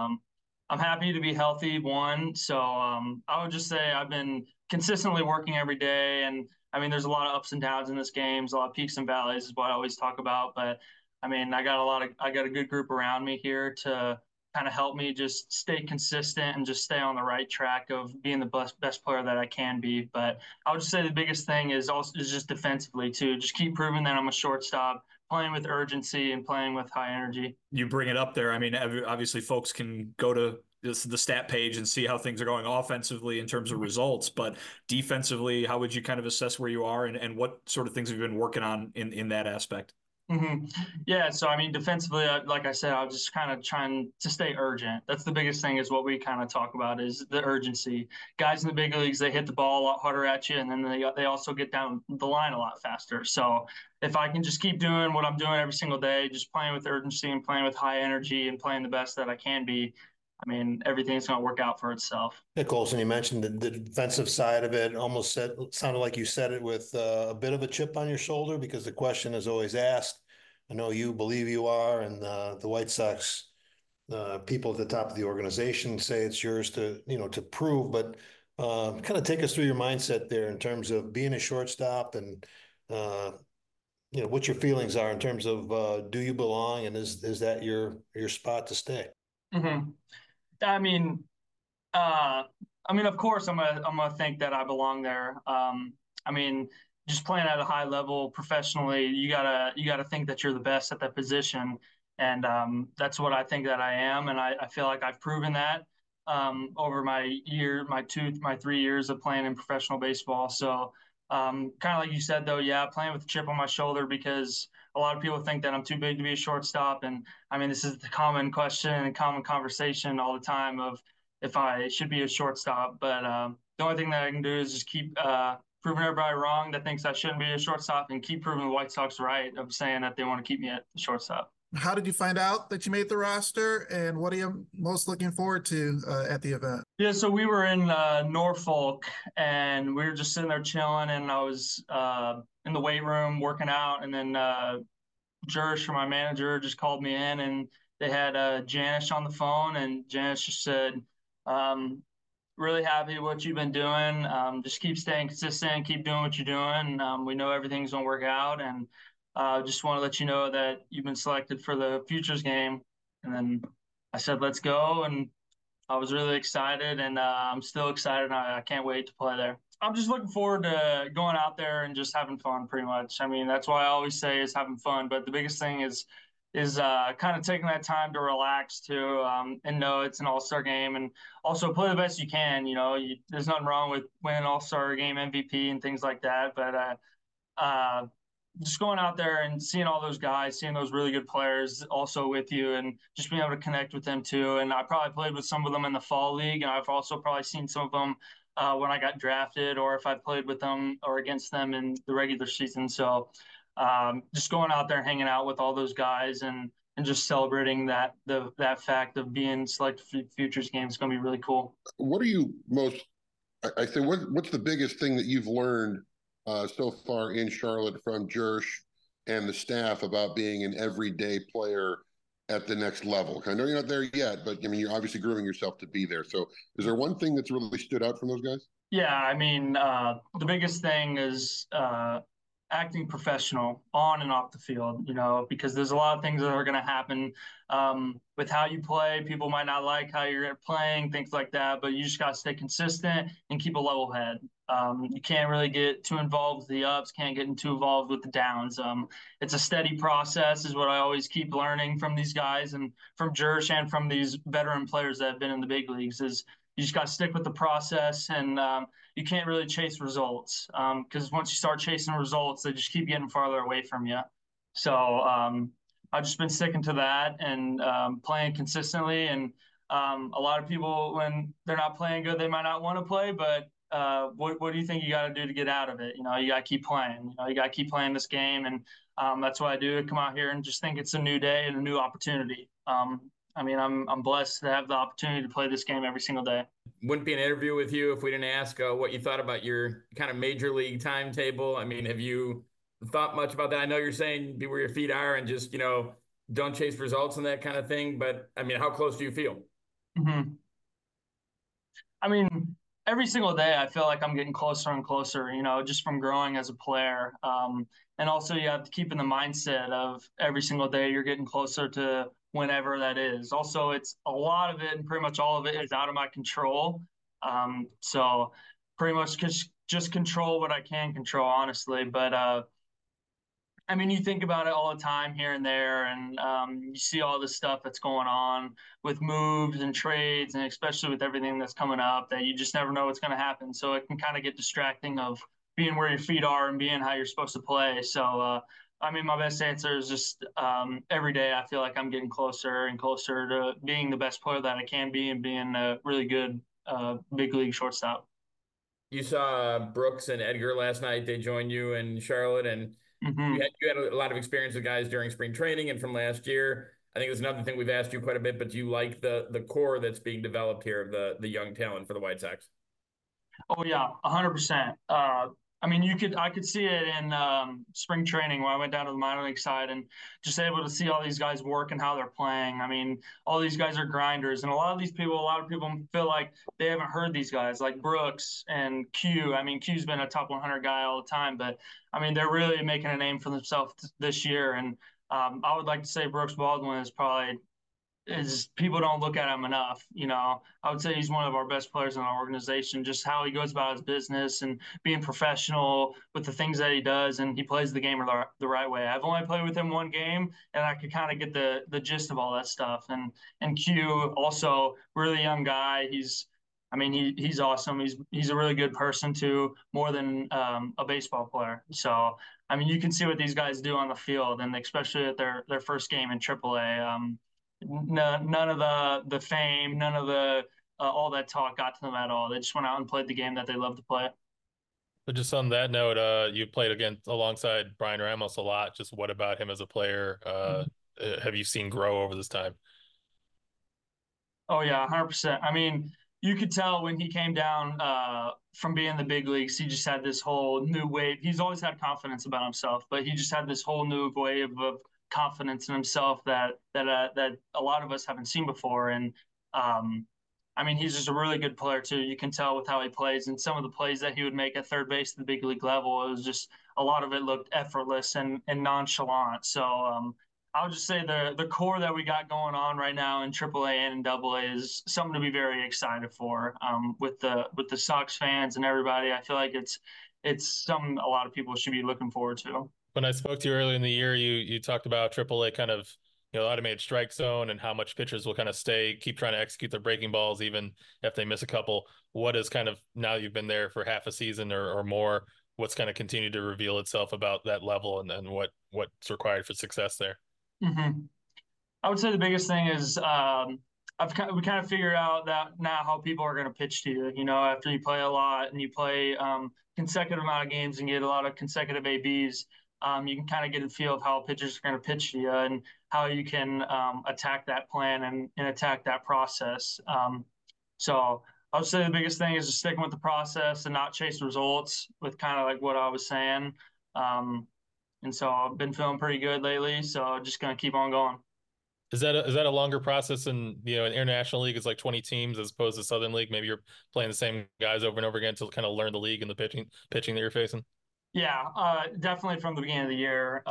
Speaker 6: I'm happy to be healthy, one. So I would just say I've been consistently working every day. And I mean, there's a lot of ups and downs in this game. There's a lot of peaks and valleys is what I always talk about. But I mean, I got a good group around me here to kind of help me just stay consistent and just stay on the right track of being the best player that I can be. But I would just say the biggest thing is just defensively too. Just keep proving that I'm a shortstop, playing with urgency and playing with high energy.
Speaker 7: You bring it up there. I mean, obviously folks can go to the stat page and see how things are going offensively in terms of results, but defensively, how would you kind of assess where you are and what sort of things have you been working on in that aspect?
Speaker 6: Mm-hmm. Yeah, so I mean, defensively, like I said, I was just kind of trying to stay urgent. That's the biggest thing is what we kind of talk about is the urgency. Guys in the big leagues, they hit the ball a lot harder at you, and then they also get down the line a lot faster. So if I can just keep doing what I'm doing every single day, just playing with urgency and playing with high energy and playing the best that I can be, I mean, everything's going to work out for itself.
Speaker 8: Hey, Colson, you mentioned the defensive side of it. Almost sounded like you said it with a bit of a chip on your shoulder because the question is always asked. I know you believe you are, and the White Sox people at the top of the organization say it's yours to, to prove, but kind of take us through your mindset there in terms of being a shortstop and, what your feelings are in terms of do you belong, and is that your spot to stay?
Speaker 6: Mm-hmm. I mean, of course, I'm gonna think that I belong there. I mean, just playing at a high level professionally, you gotta think that you're the best at that position, and that's what I think that I am, and I feel like I've proven that over my 3 years of playing in professional baseball. So, kind of like you said, though, yeah, playing with a chip on my shoulder because a lot of people think that I'm too big to be a shortstop, and I mean, this is the common question and common conversation all the time of if I should be a shortstop. But the only thing that I can do is just keep proving everybody wrong that thinks I shouldn't be a shortstop and keep proving the White Sox right of saying that they want to keep me at the shortstop.
Speaker 9: How did you find out that you made the roster, and what are you most looking forward to at the event?
Speaker 6: Yeah, so we were in Norfolk, and we were just sitting there chilling, and I was in the weight room working out, and then Jerish, my manager, just called me in, and they had Janice on the phone, and Janice just said, really happy with what you've been doing. Just keep staying consistent, keep doing what you're doing. We know everything's going to work out, and just want to let you know that you've been selected for the Futures game. And then I said, let's go, and I was really excited, and I'm still excited. I can't wait to play there. I'm just looking forward to going out there and just having fun, pretty much. I mean, that's why I always say is having fun. But the biggest thing is kind of taking that time to relax too, and know it's an all-star game, and also play the best you can. There's nothing wrong with winning all-star game MVP and things like that. But just going out there and seeing all those guys, seeing those really good players also with you, and just being able to connect with them too. And I probably played with some of them in the fall league, and I've also probably seen some of them when I got drafted, or if I played with them or against them in the regular season. So just going out there and hanging out with all those guys and just celebrating that fact of being selected for Futures game is going to be really cool.
Speaker 10: What are you most? I say, what's the biggest thing that you've learned so far in Charlotte from Jerish and the staff about being an everyday player at the next level? I know you're not there yet, but I mean, you're obviously grooming yourself to be there. So is there one thing that's really stood out from those guys?
Speaker 6: Yeah, I mean, the biggest thing is acting professional on and off the field, because there's a lot of things that are going to happen with how you play. People might not like how you're playing, things like that, but you just got to stay consistent and keep a level head. You can't really get too involved with the ups, can't get too involved with the downs. It's a steady process is what I always keep learning from these guys and from Jerish and from these veteran players that have been in the big leagues is you just got to stick with the process, and you can't really chase results because once you start chasing results, they just keep getting farther away from you. So I've just been sticking to that and playing consistently. And a lot of people, when they're not playing good, they might not want to play, but what do you think you got to do to get out of it? You got to keep playing. You got to keep playing this game, and that's what I do. Come out here and just think it's a new day and a new opportunity. I'm blessed to have the opportunity to play this game every single day.
Speaker 11: Wouldn't be an interview with you if we didn't ask what you thought about your kind of major league timetable. I mean, have you thought much about that? I know you're saying be where your feet are and just, don't chase results and that kind of thing. But, I mean, how close do you feel?
Speaker 6: Mm-hmm. I mean, every single day I feel like I'm getting closer and closer, just from growing as a player. And also you have to keep in the mindset of every single day you're getting closer to whenever that is. Also, it's a lot of it and pretty much all of it is out of my control. So pretty much just control what I can control, honestly. But you think about it all the time here and there, and you see all this stuff that's going on with moves and trades, and especially with everything that's coming up, that you just never know what's going to happen. So it can kind of get distracting of being where your feet are and being how you're supposed to play. So, my best answer is just every day I feel like I'm getting closer and closer to being the best player that I can be and being a really good big league shortstop.
Speaker 11: You saw Brooks and Edgar last night. They joined you in Charlotte, and you had a lot of experience with guys during spring training and from last year. I think it's another thing we've asked you quite a bit, but do you like the core that's being developed here of the young talent for the White Sox?
Speaker 6: Oh, yeah, 100%. I mean, I could see it in spring training when I went down to the minor league side and just able to see all these guys work and how they're playing. I mean, all these guys are grinders, and a lot of people feel like they haven't heard these guys like Brooks and Q. I mean, Q's been a top 100 guy all the time, but I mean, they're really making a name for themselves this year. And I would like to say Brooks Baldwin is people don't look at him enough. I would say he's one of our best players in our organization, just how he goes about his business and being professional with the things that he does. And he plays the game the right way. I've only played with him one game and I could kind of get the gist of all that stuff. And Q also really young guy. He's awesome. He's a really good person too, more than a baseball player. So, I mean, you can see what these guys do on the field, and especially at their first game in AAA. None of the fame, none of the all that talk got to them at all. They just went out and played the game that they love to play.
Speaker 12: But just on that note, you played alongside Brian Ramos a lot. Just what about him as a player have you seen grow over this time?
Speaker 6: Oh yeah, 100%. I mean, you could tell when he came down from being in the big leagues, he just had this whole new wave. He's always had confidence about himself, but he just had this whole new wave of confidence in himself that a lot of us haven't seen before. And I mean, he's just a really good player too. You can tell with how he plays and some of the plays that he would make at third base at the big league level. It was just a lot of it looked effortless and nonchalant. So I would just say the core that we got going on right now in AAA and in AA is something to be very excited for. With the Sox fans and everybody, I feel like it's something a lot of people should be looking forward to.
Speaker 12: When I spoke to you earlier in the year, you talked about AAA kind of, automated strike zone and how much pitchers will kind of keep trying to execute their breaking balls, even if they miss a couple. What is kind of, now you've been there for half a season or more, what's kind of continued to reveal itself about that level and what's required for success there?
Speaker 6: Mm-hmm. I would say the biggest thing is we kind of figured out that now how people are going to pitch to you. After you play a lot and you play consecutive amount of games and get a lot of consecutive ABs, you can kind of get a feel of how pitchers are going to pitch to you and how you can attack that plan and attack that process. So I would say the biggest thing is just sticking with the process and not chase results with kind of like what I was saying. And so I've been feeling pretty good lately, so just going to keep on going.
Speaker 12: Is that a longer process in an international league is like 20 teams as opposed to Southern League? Maybe you're playing the same guys over and over again to kind of learn the league and the pitching that you're facing?
Speaker 6: Yeah, definitely from the beginning of the year.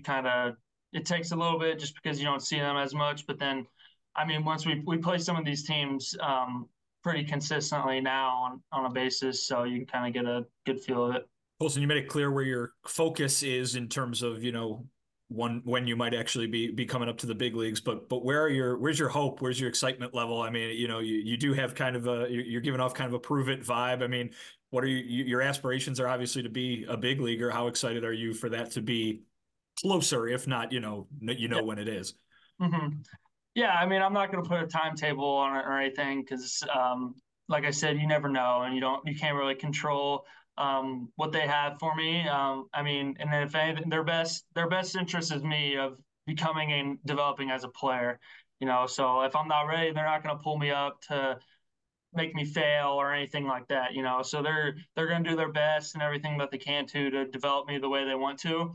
Speaker 6: It takes a little bit just because you don't see them as much. But then, I mean, once we play some of these teams pretty consistently now on a basis, so you can kind of get a good feel of it.
Speaker 7: Colson, you made it clear where your focus is in terms of, when you might actually be coming up to the big leagues, but where's your hope? Where's your excitement level? I mean, you do have kind of you're giving off kind of a prove it vibe. I mean, what are your aspirations are obviously to be a big leaguer. How excited are you for that to be closer, if not,
Speaker 6: Yeah.
Speaker 7: when it is?
Speaker 6: Mm-hmm. Yeah, I mean, I'm not going to put a timetable on it or anything because, like I said, you never know, and you can't really control what they have for me. I mean, and then if anything, their best interest is me of becoming and developing as a player. So if I'm not ready, they're not going to pull me up to make me fail or anything like that. So they're going to do their best and everything that they can to develop me the way they want to.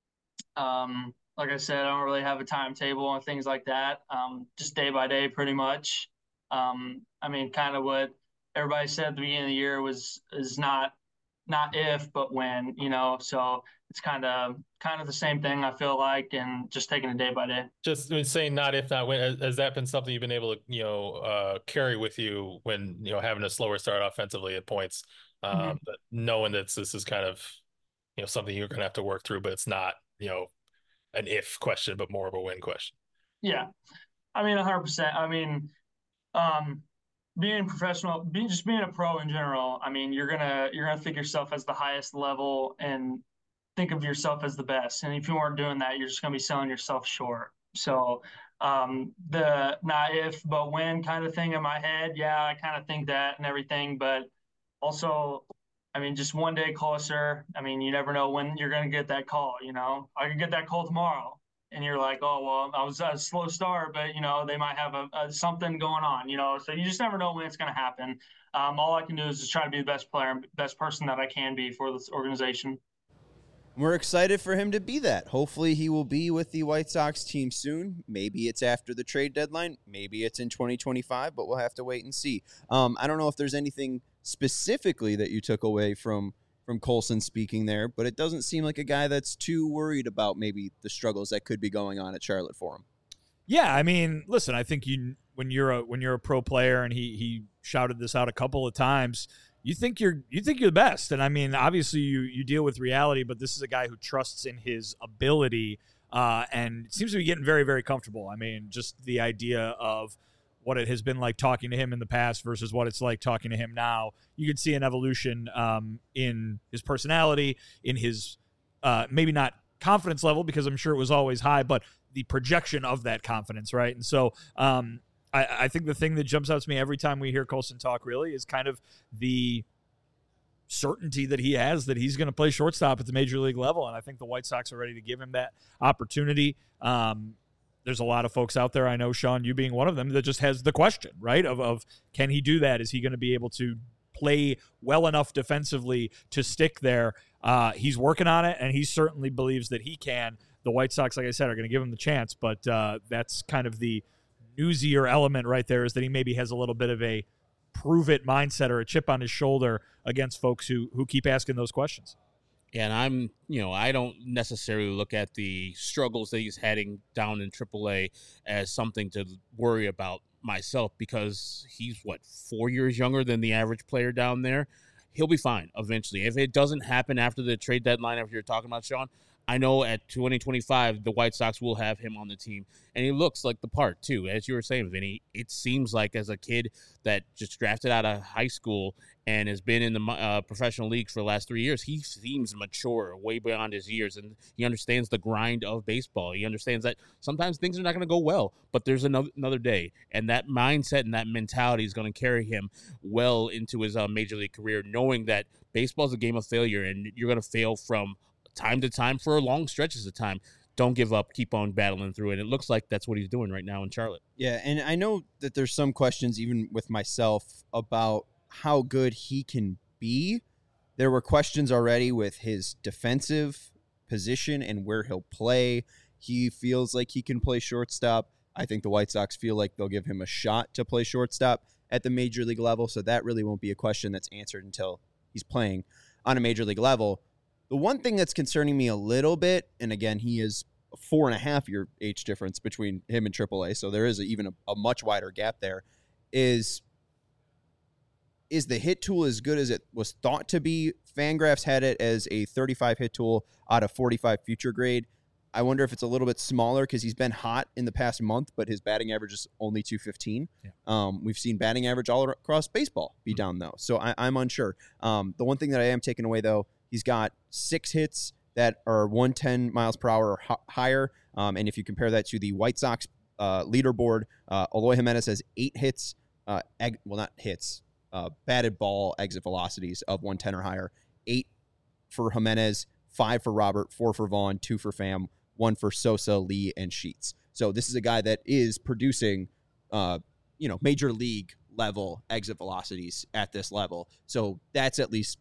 Speaker 6: Like I said, I don't really have a timetable and things like that. Just day by day, pretty much. I mean, kind of what everybody said at the beginning of the year is not if, but when, so it's kind of the same thing, I feel like, and just taking it day by day.
Speaker 12: Just saying not if, not when, has that been something you've been able to, carry with you when, having a slower start offensively at points, but knowing that this is kind of, something you're going to have to work through, but it's not, an if question, but more of a when question.
Speaker 6: Yeah. I mean, 100%. I mean, being professional, being a pro in general, I mean, you're gonna think yourself as the highest level and think of yourself as the best. And if you aren't doing that, you're just gonna be selling yourself short. So the not if but when kind of thing in my head, yeah, I kind of think that and everything, but also, I mean, just one day closer. I mean, you never know when you're gonna get that call. I could get that call tomorrow. And you're like, oh, well, I was a slow start, but, they might have a something going on, so you just never know when it's going to happen. all I can do is just try to be the best player, best person that I can be for this organization.
Speaker 1: We're excited for him to be that. Hopefully he will be with the White Sox team soon. Maybe it's after the trade deadline. Maybe it's in 2025, but we'll have to wait and see. I don't know if there's anything specifically that you took away from Colson speaking there, but it doesn't seem like a guy that's too worried about maybe the struggles that could be going on at Charlotte for him.
Speaker 4: Yeah, I mean, listen, I think when you're a pro player, and he shouted this out a couple of times, you think you're the best. And I mean, obviously you deal with reality, but this is a guy who trusts in his ability and seems to be getting very, very comfortable. I mean, just the idea of what it has been like talking to him in the past versus what it's like talking to him now. You can see an evolution in his personality, in his maybe not confidence level, because I'm sure it was always high, but the projection of that confidence, right? And so I think the thing that jumps out to me every time we hear Colson talk really is kind of the certainty that he has that he's going to play shortstop at the major league level. And I think the White Sox are ready to give him that opportunity. There's a lot of folks out there, I know, Sean, you being one of them, that just has the question, right, of can he do that? Is he going to be able to play well enough defensively to stick there? He's working on it, and he certainly believes that he can. The White Sox, like I said, are going to give him the chance, but that's kind of the newsier element right there, is that he maybe has a little bit of a prove-it mindset or a chip on his shoulder against folks who keep asking those questions.
Speaker 2: And I don't necessarily look at the struggles that he's heading down in AAA as something to worry about myself, because he's, 4 years younger than the average player down there. He'll be fine eventually. If it doesn't happen after the trade deadline, after you're talking about, Sean, I know at 2025, the White Sox will have him on the team. And he looks like the part, too. As you were saying, Vinny, it seems like as a kid that just drafted out of high school and has been in the professional leagues for the last 3 years, he seems mature, way beyond his years. And he understands the grind of baseball. He understands that sometimes things are not going to go well, but there's another day. And that mindset and that mentality is going to carry him well into his major league career, knowing that baseball is a game of failure, and you're going to fail from time to time for long stretches of time. Don't give up. Keep on battling through it. It looks like that's what he's doing right now in Charlotte.
Speaker 1: Yeah, and I know that there's some questions, even with myself, about how good he can be. There were questions already with his defensive position and where he'll play. He feels like he can play shortstop. I think the White Sox feel like they'll give him a shot to play shortstop at the major league level, so that really won't be a question that's answered until he's playing on a major league level. The one thing that's concerning me a little bit, and again, he is a 4.5-year age difference between him and AAA, so there is even a much wider gap there, is the hit tool as good as it was thought to be? Fangraphs had it as a 35 hit tool out of 45 future grade. I wonder if it's a little bit smaller because he's been hot in the past month, but his batting average is only 215. Yeah. We've seen batting average all across baseball be down, though, so I'm unsure. The one thing that I am taking away, though, he's got 6 hits that are 110 miles per hour or higher. And if you compare that to the White Sox leaderboard, Eloy Jimenez has 8 hits, batted ball exit velocities of 110 or higher. 8 for Jimenez, 5 for Robert, 4 for Vaughn, 2 for Pham, 1 for Sosa, Lee, and Sheets. So this is a guy that is producing, major league level exit velocities at this level. So that's at least,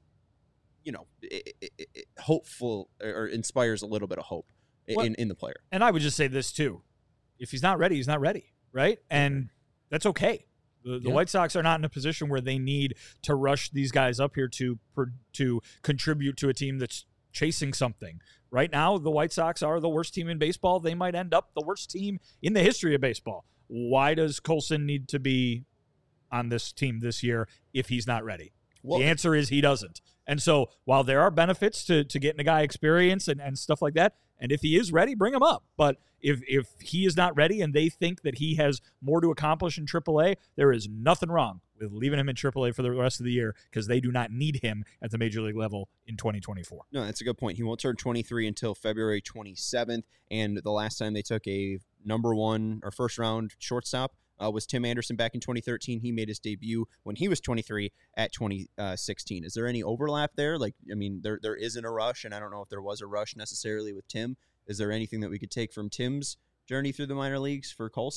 Speaker 1: hopeful, or inspires a little bit of hope in the player.
Speaker 4: And I would just say this too: if he's not ready, he's not ready, right? And that's okay. The White Sox are not in a position where they need to rush these guys up here to contribute to a team that's chasing something. Right now, the White Sox are the worst team in baseball. They might end up the worst team in the history of baseball. Why does Colson need to be on this team this year if he's not ready? Well, the answer is he doesn't. And so while there are benefits to getting a guy experience and stuff like that, and if he is ready, bring him up. But if he is not ready and they think that he has more to accomplish in AAA, there is nothing wrong with leaving him in AAA for the rest of the year, because they do not need him at the major league level in 2024.
Speaker 1: No, that's a good point. He won't turn 23 until February 27th. And the last time they took a number 1 or first round shortstop was Tim Anderson back in 2013. He made his debut when he was 23 at 2016. Is there any overlap there? There isn't a rush, and I don't know if there was a rush necessarily with Tim. Is there anything that we could take from Tim's journey through the minor leagues for Colson?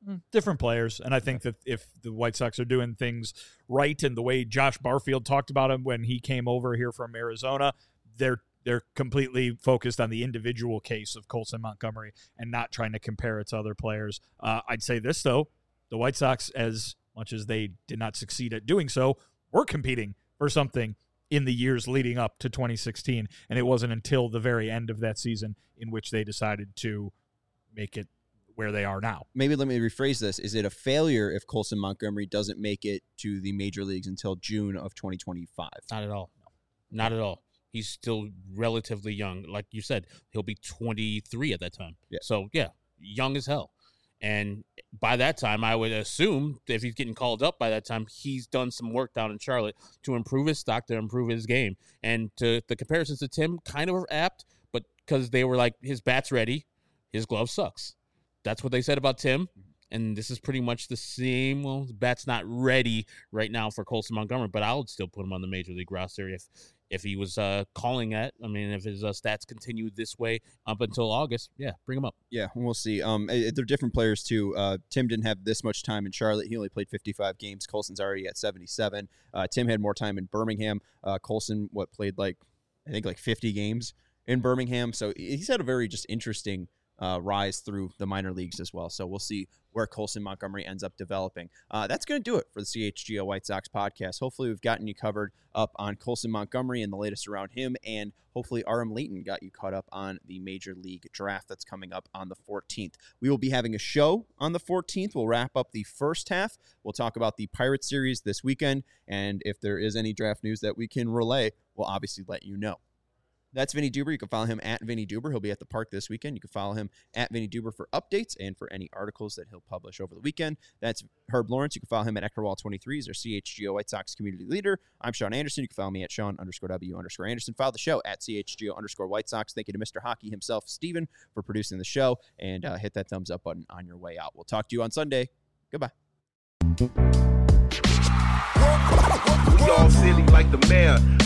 Speaker 4: Different players. And I think that if the White Sox are doing things right and the way Josh Barfield talked about him when he came over here from Arizona, they're completely focused on the individual case of Colson Montgomery and not trying to compare it to other players. I'd say this, though. The White Sox, as much as they did not succeed at doing so, were competing for something in the years leading up to 2016. And it wasn't until the very end of that season in which they decided to make it where they are now.
Speaker 1: Maybe let me rephrase this. Is it a failure if Colson Montgomery doesn't make it to the major leagues until June of 2025?
Speaker 2: Not at all. No. Not at all. He's still relatively young. Like you said, he'll be 23 at that time.
Speaker 1: Yeah.
Speaker 2: So, yeah, young as hell. And by that time, I would assume if he's getting called up by that time, he's done some work down in Charlotte to improve his stock, to improve his game. And to the comparisons to Tim kind of are apt, but because they were like, his bat's ready, his glove sucks. That's what they said about Tim. And this is pretty much the same. Well, the bat's not ready right now for Colson Montgomery, but I would still put him on the major league roster if he was calling it. I mean, if his stats continue this way up until August, yeah, bring him up.
Speaker 1: Yeah, we'll see. They're different players, too. Tim didn't have this much time in Charlotte. He only played 55 games. Colson's already at 77. Tim had more time in Birmingham. Colson, played I think 50 games in Birmingham. So he's had a very just interesting rise through the minor leagues as well. So we'll see where Colson Montgomery ends up developing. That's going to do it for the CHGO White Sox podcast. Hopefully we've gotten you covered up on Colson Montgomery and the latest around him, and hopefully Aram Leighton got you caught up on the Major League Draft that's coming up on the 14th. We will be having a show on the 14th. We'll wrap up the first half. We'll talk about the Pirates series this weekend, and if there is any draft news that we can relay, we'll obviously let you know. That's Vinny Duber. You can follow him at Vinny Duber. He'll be at the park this weekend. You can follow him at Vinny Duber for updates and for any articles that he'll publish over the weekend. That's Herb Lawrence. You can follow him at Eckerwall23. He's our CHGO White Sox community leader. I'm Sean Anderson. You can follow me at Sean_W_Anderson. Follow the show at CHGO_White Sox. Thank you to Mr. Hockey himself, Steven, for producing the show. And hit that thumbs up button on your way out. We'll talk to you on Sunday. Goodbye.
Speaker 13: Y'all silly like the mayor.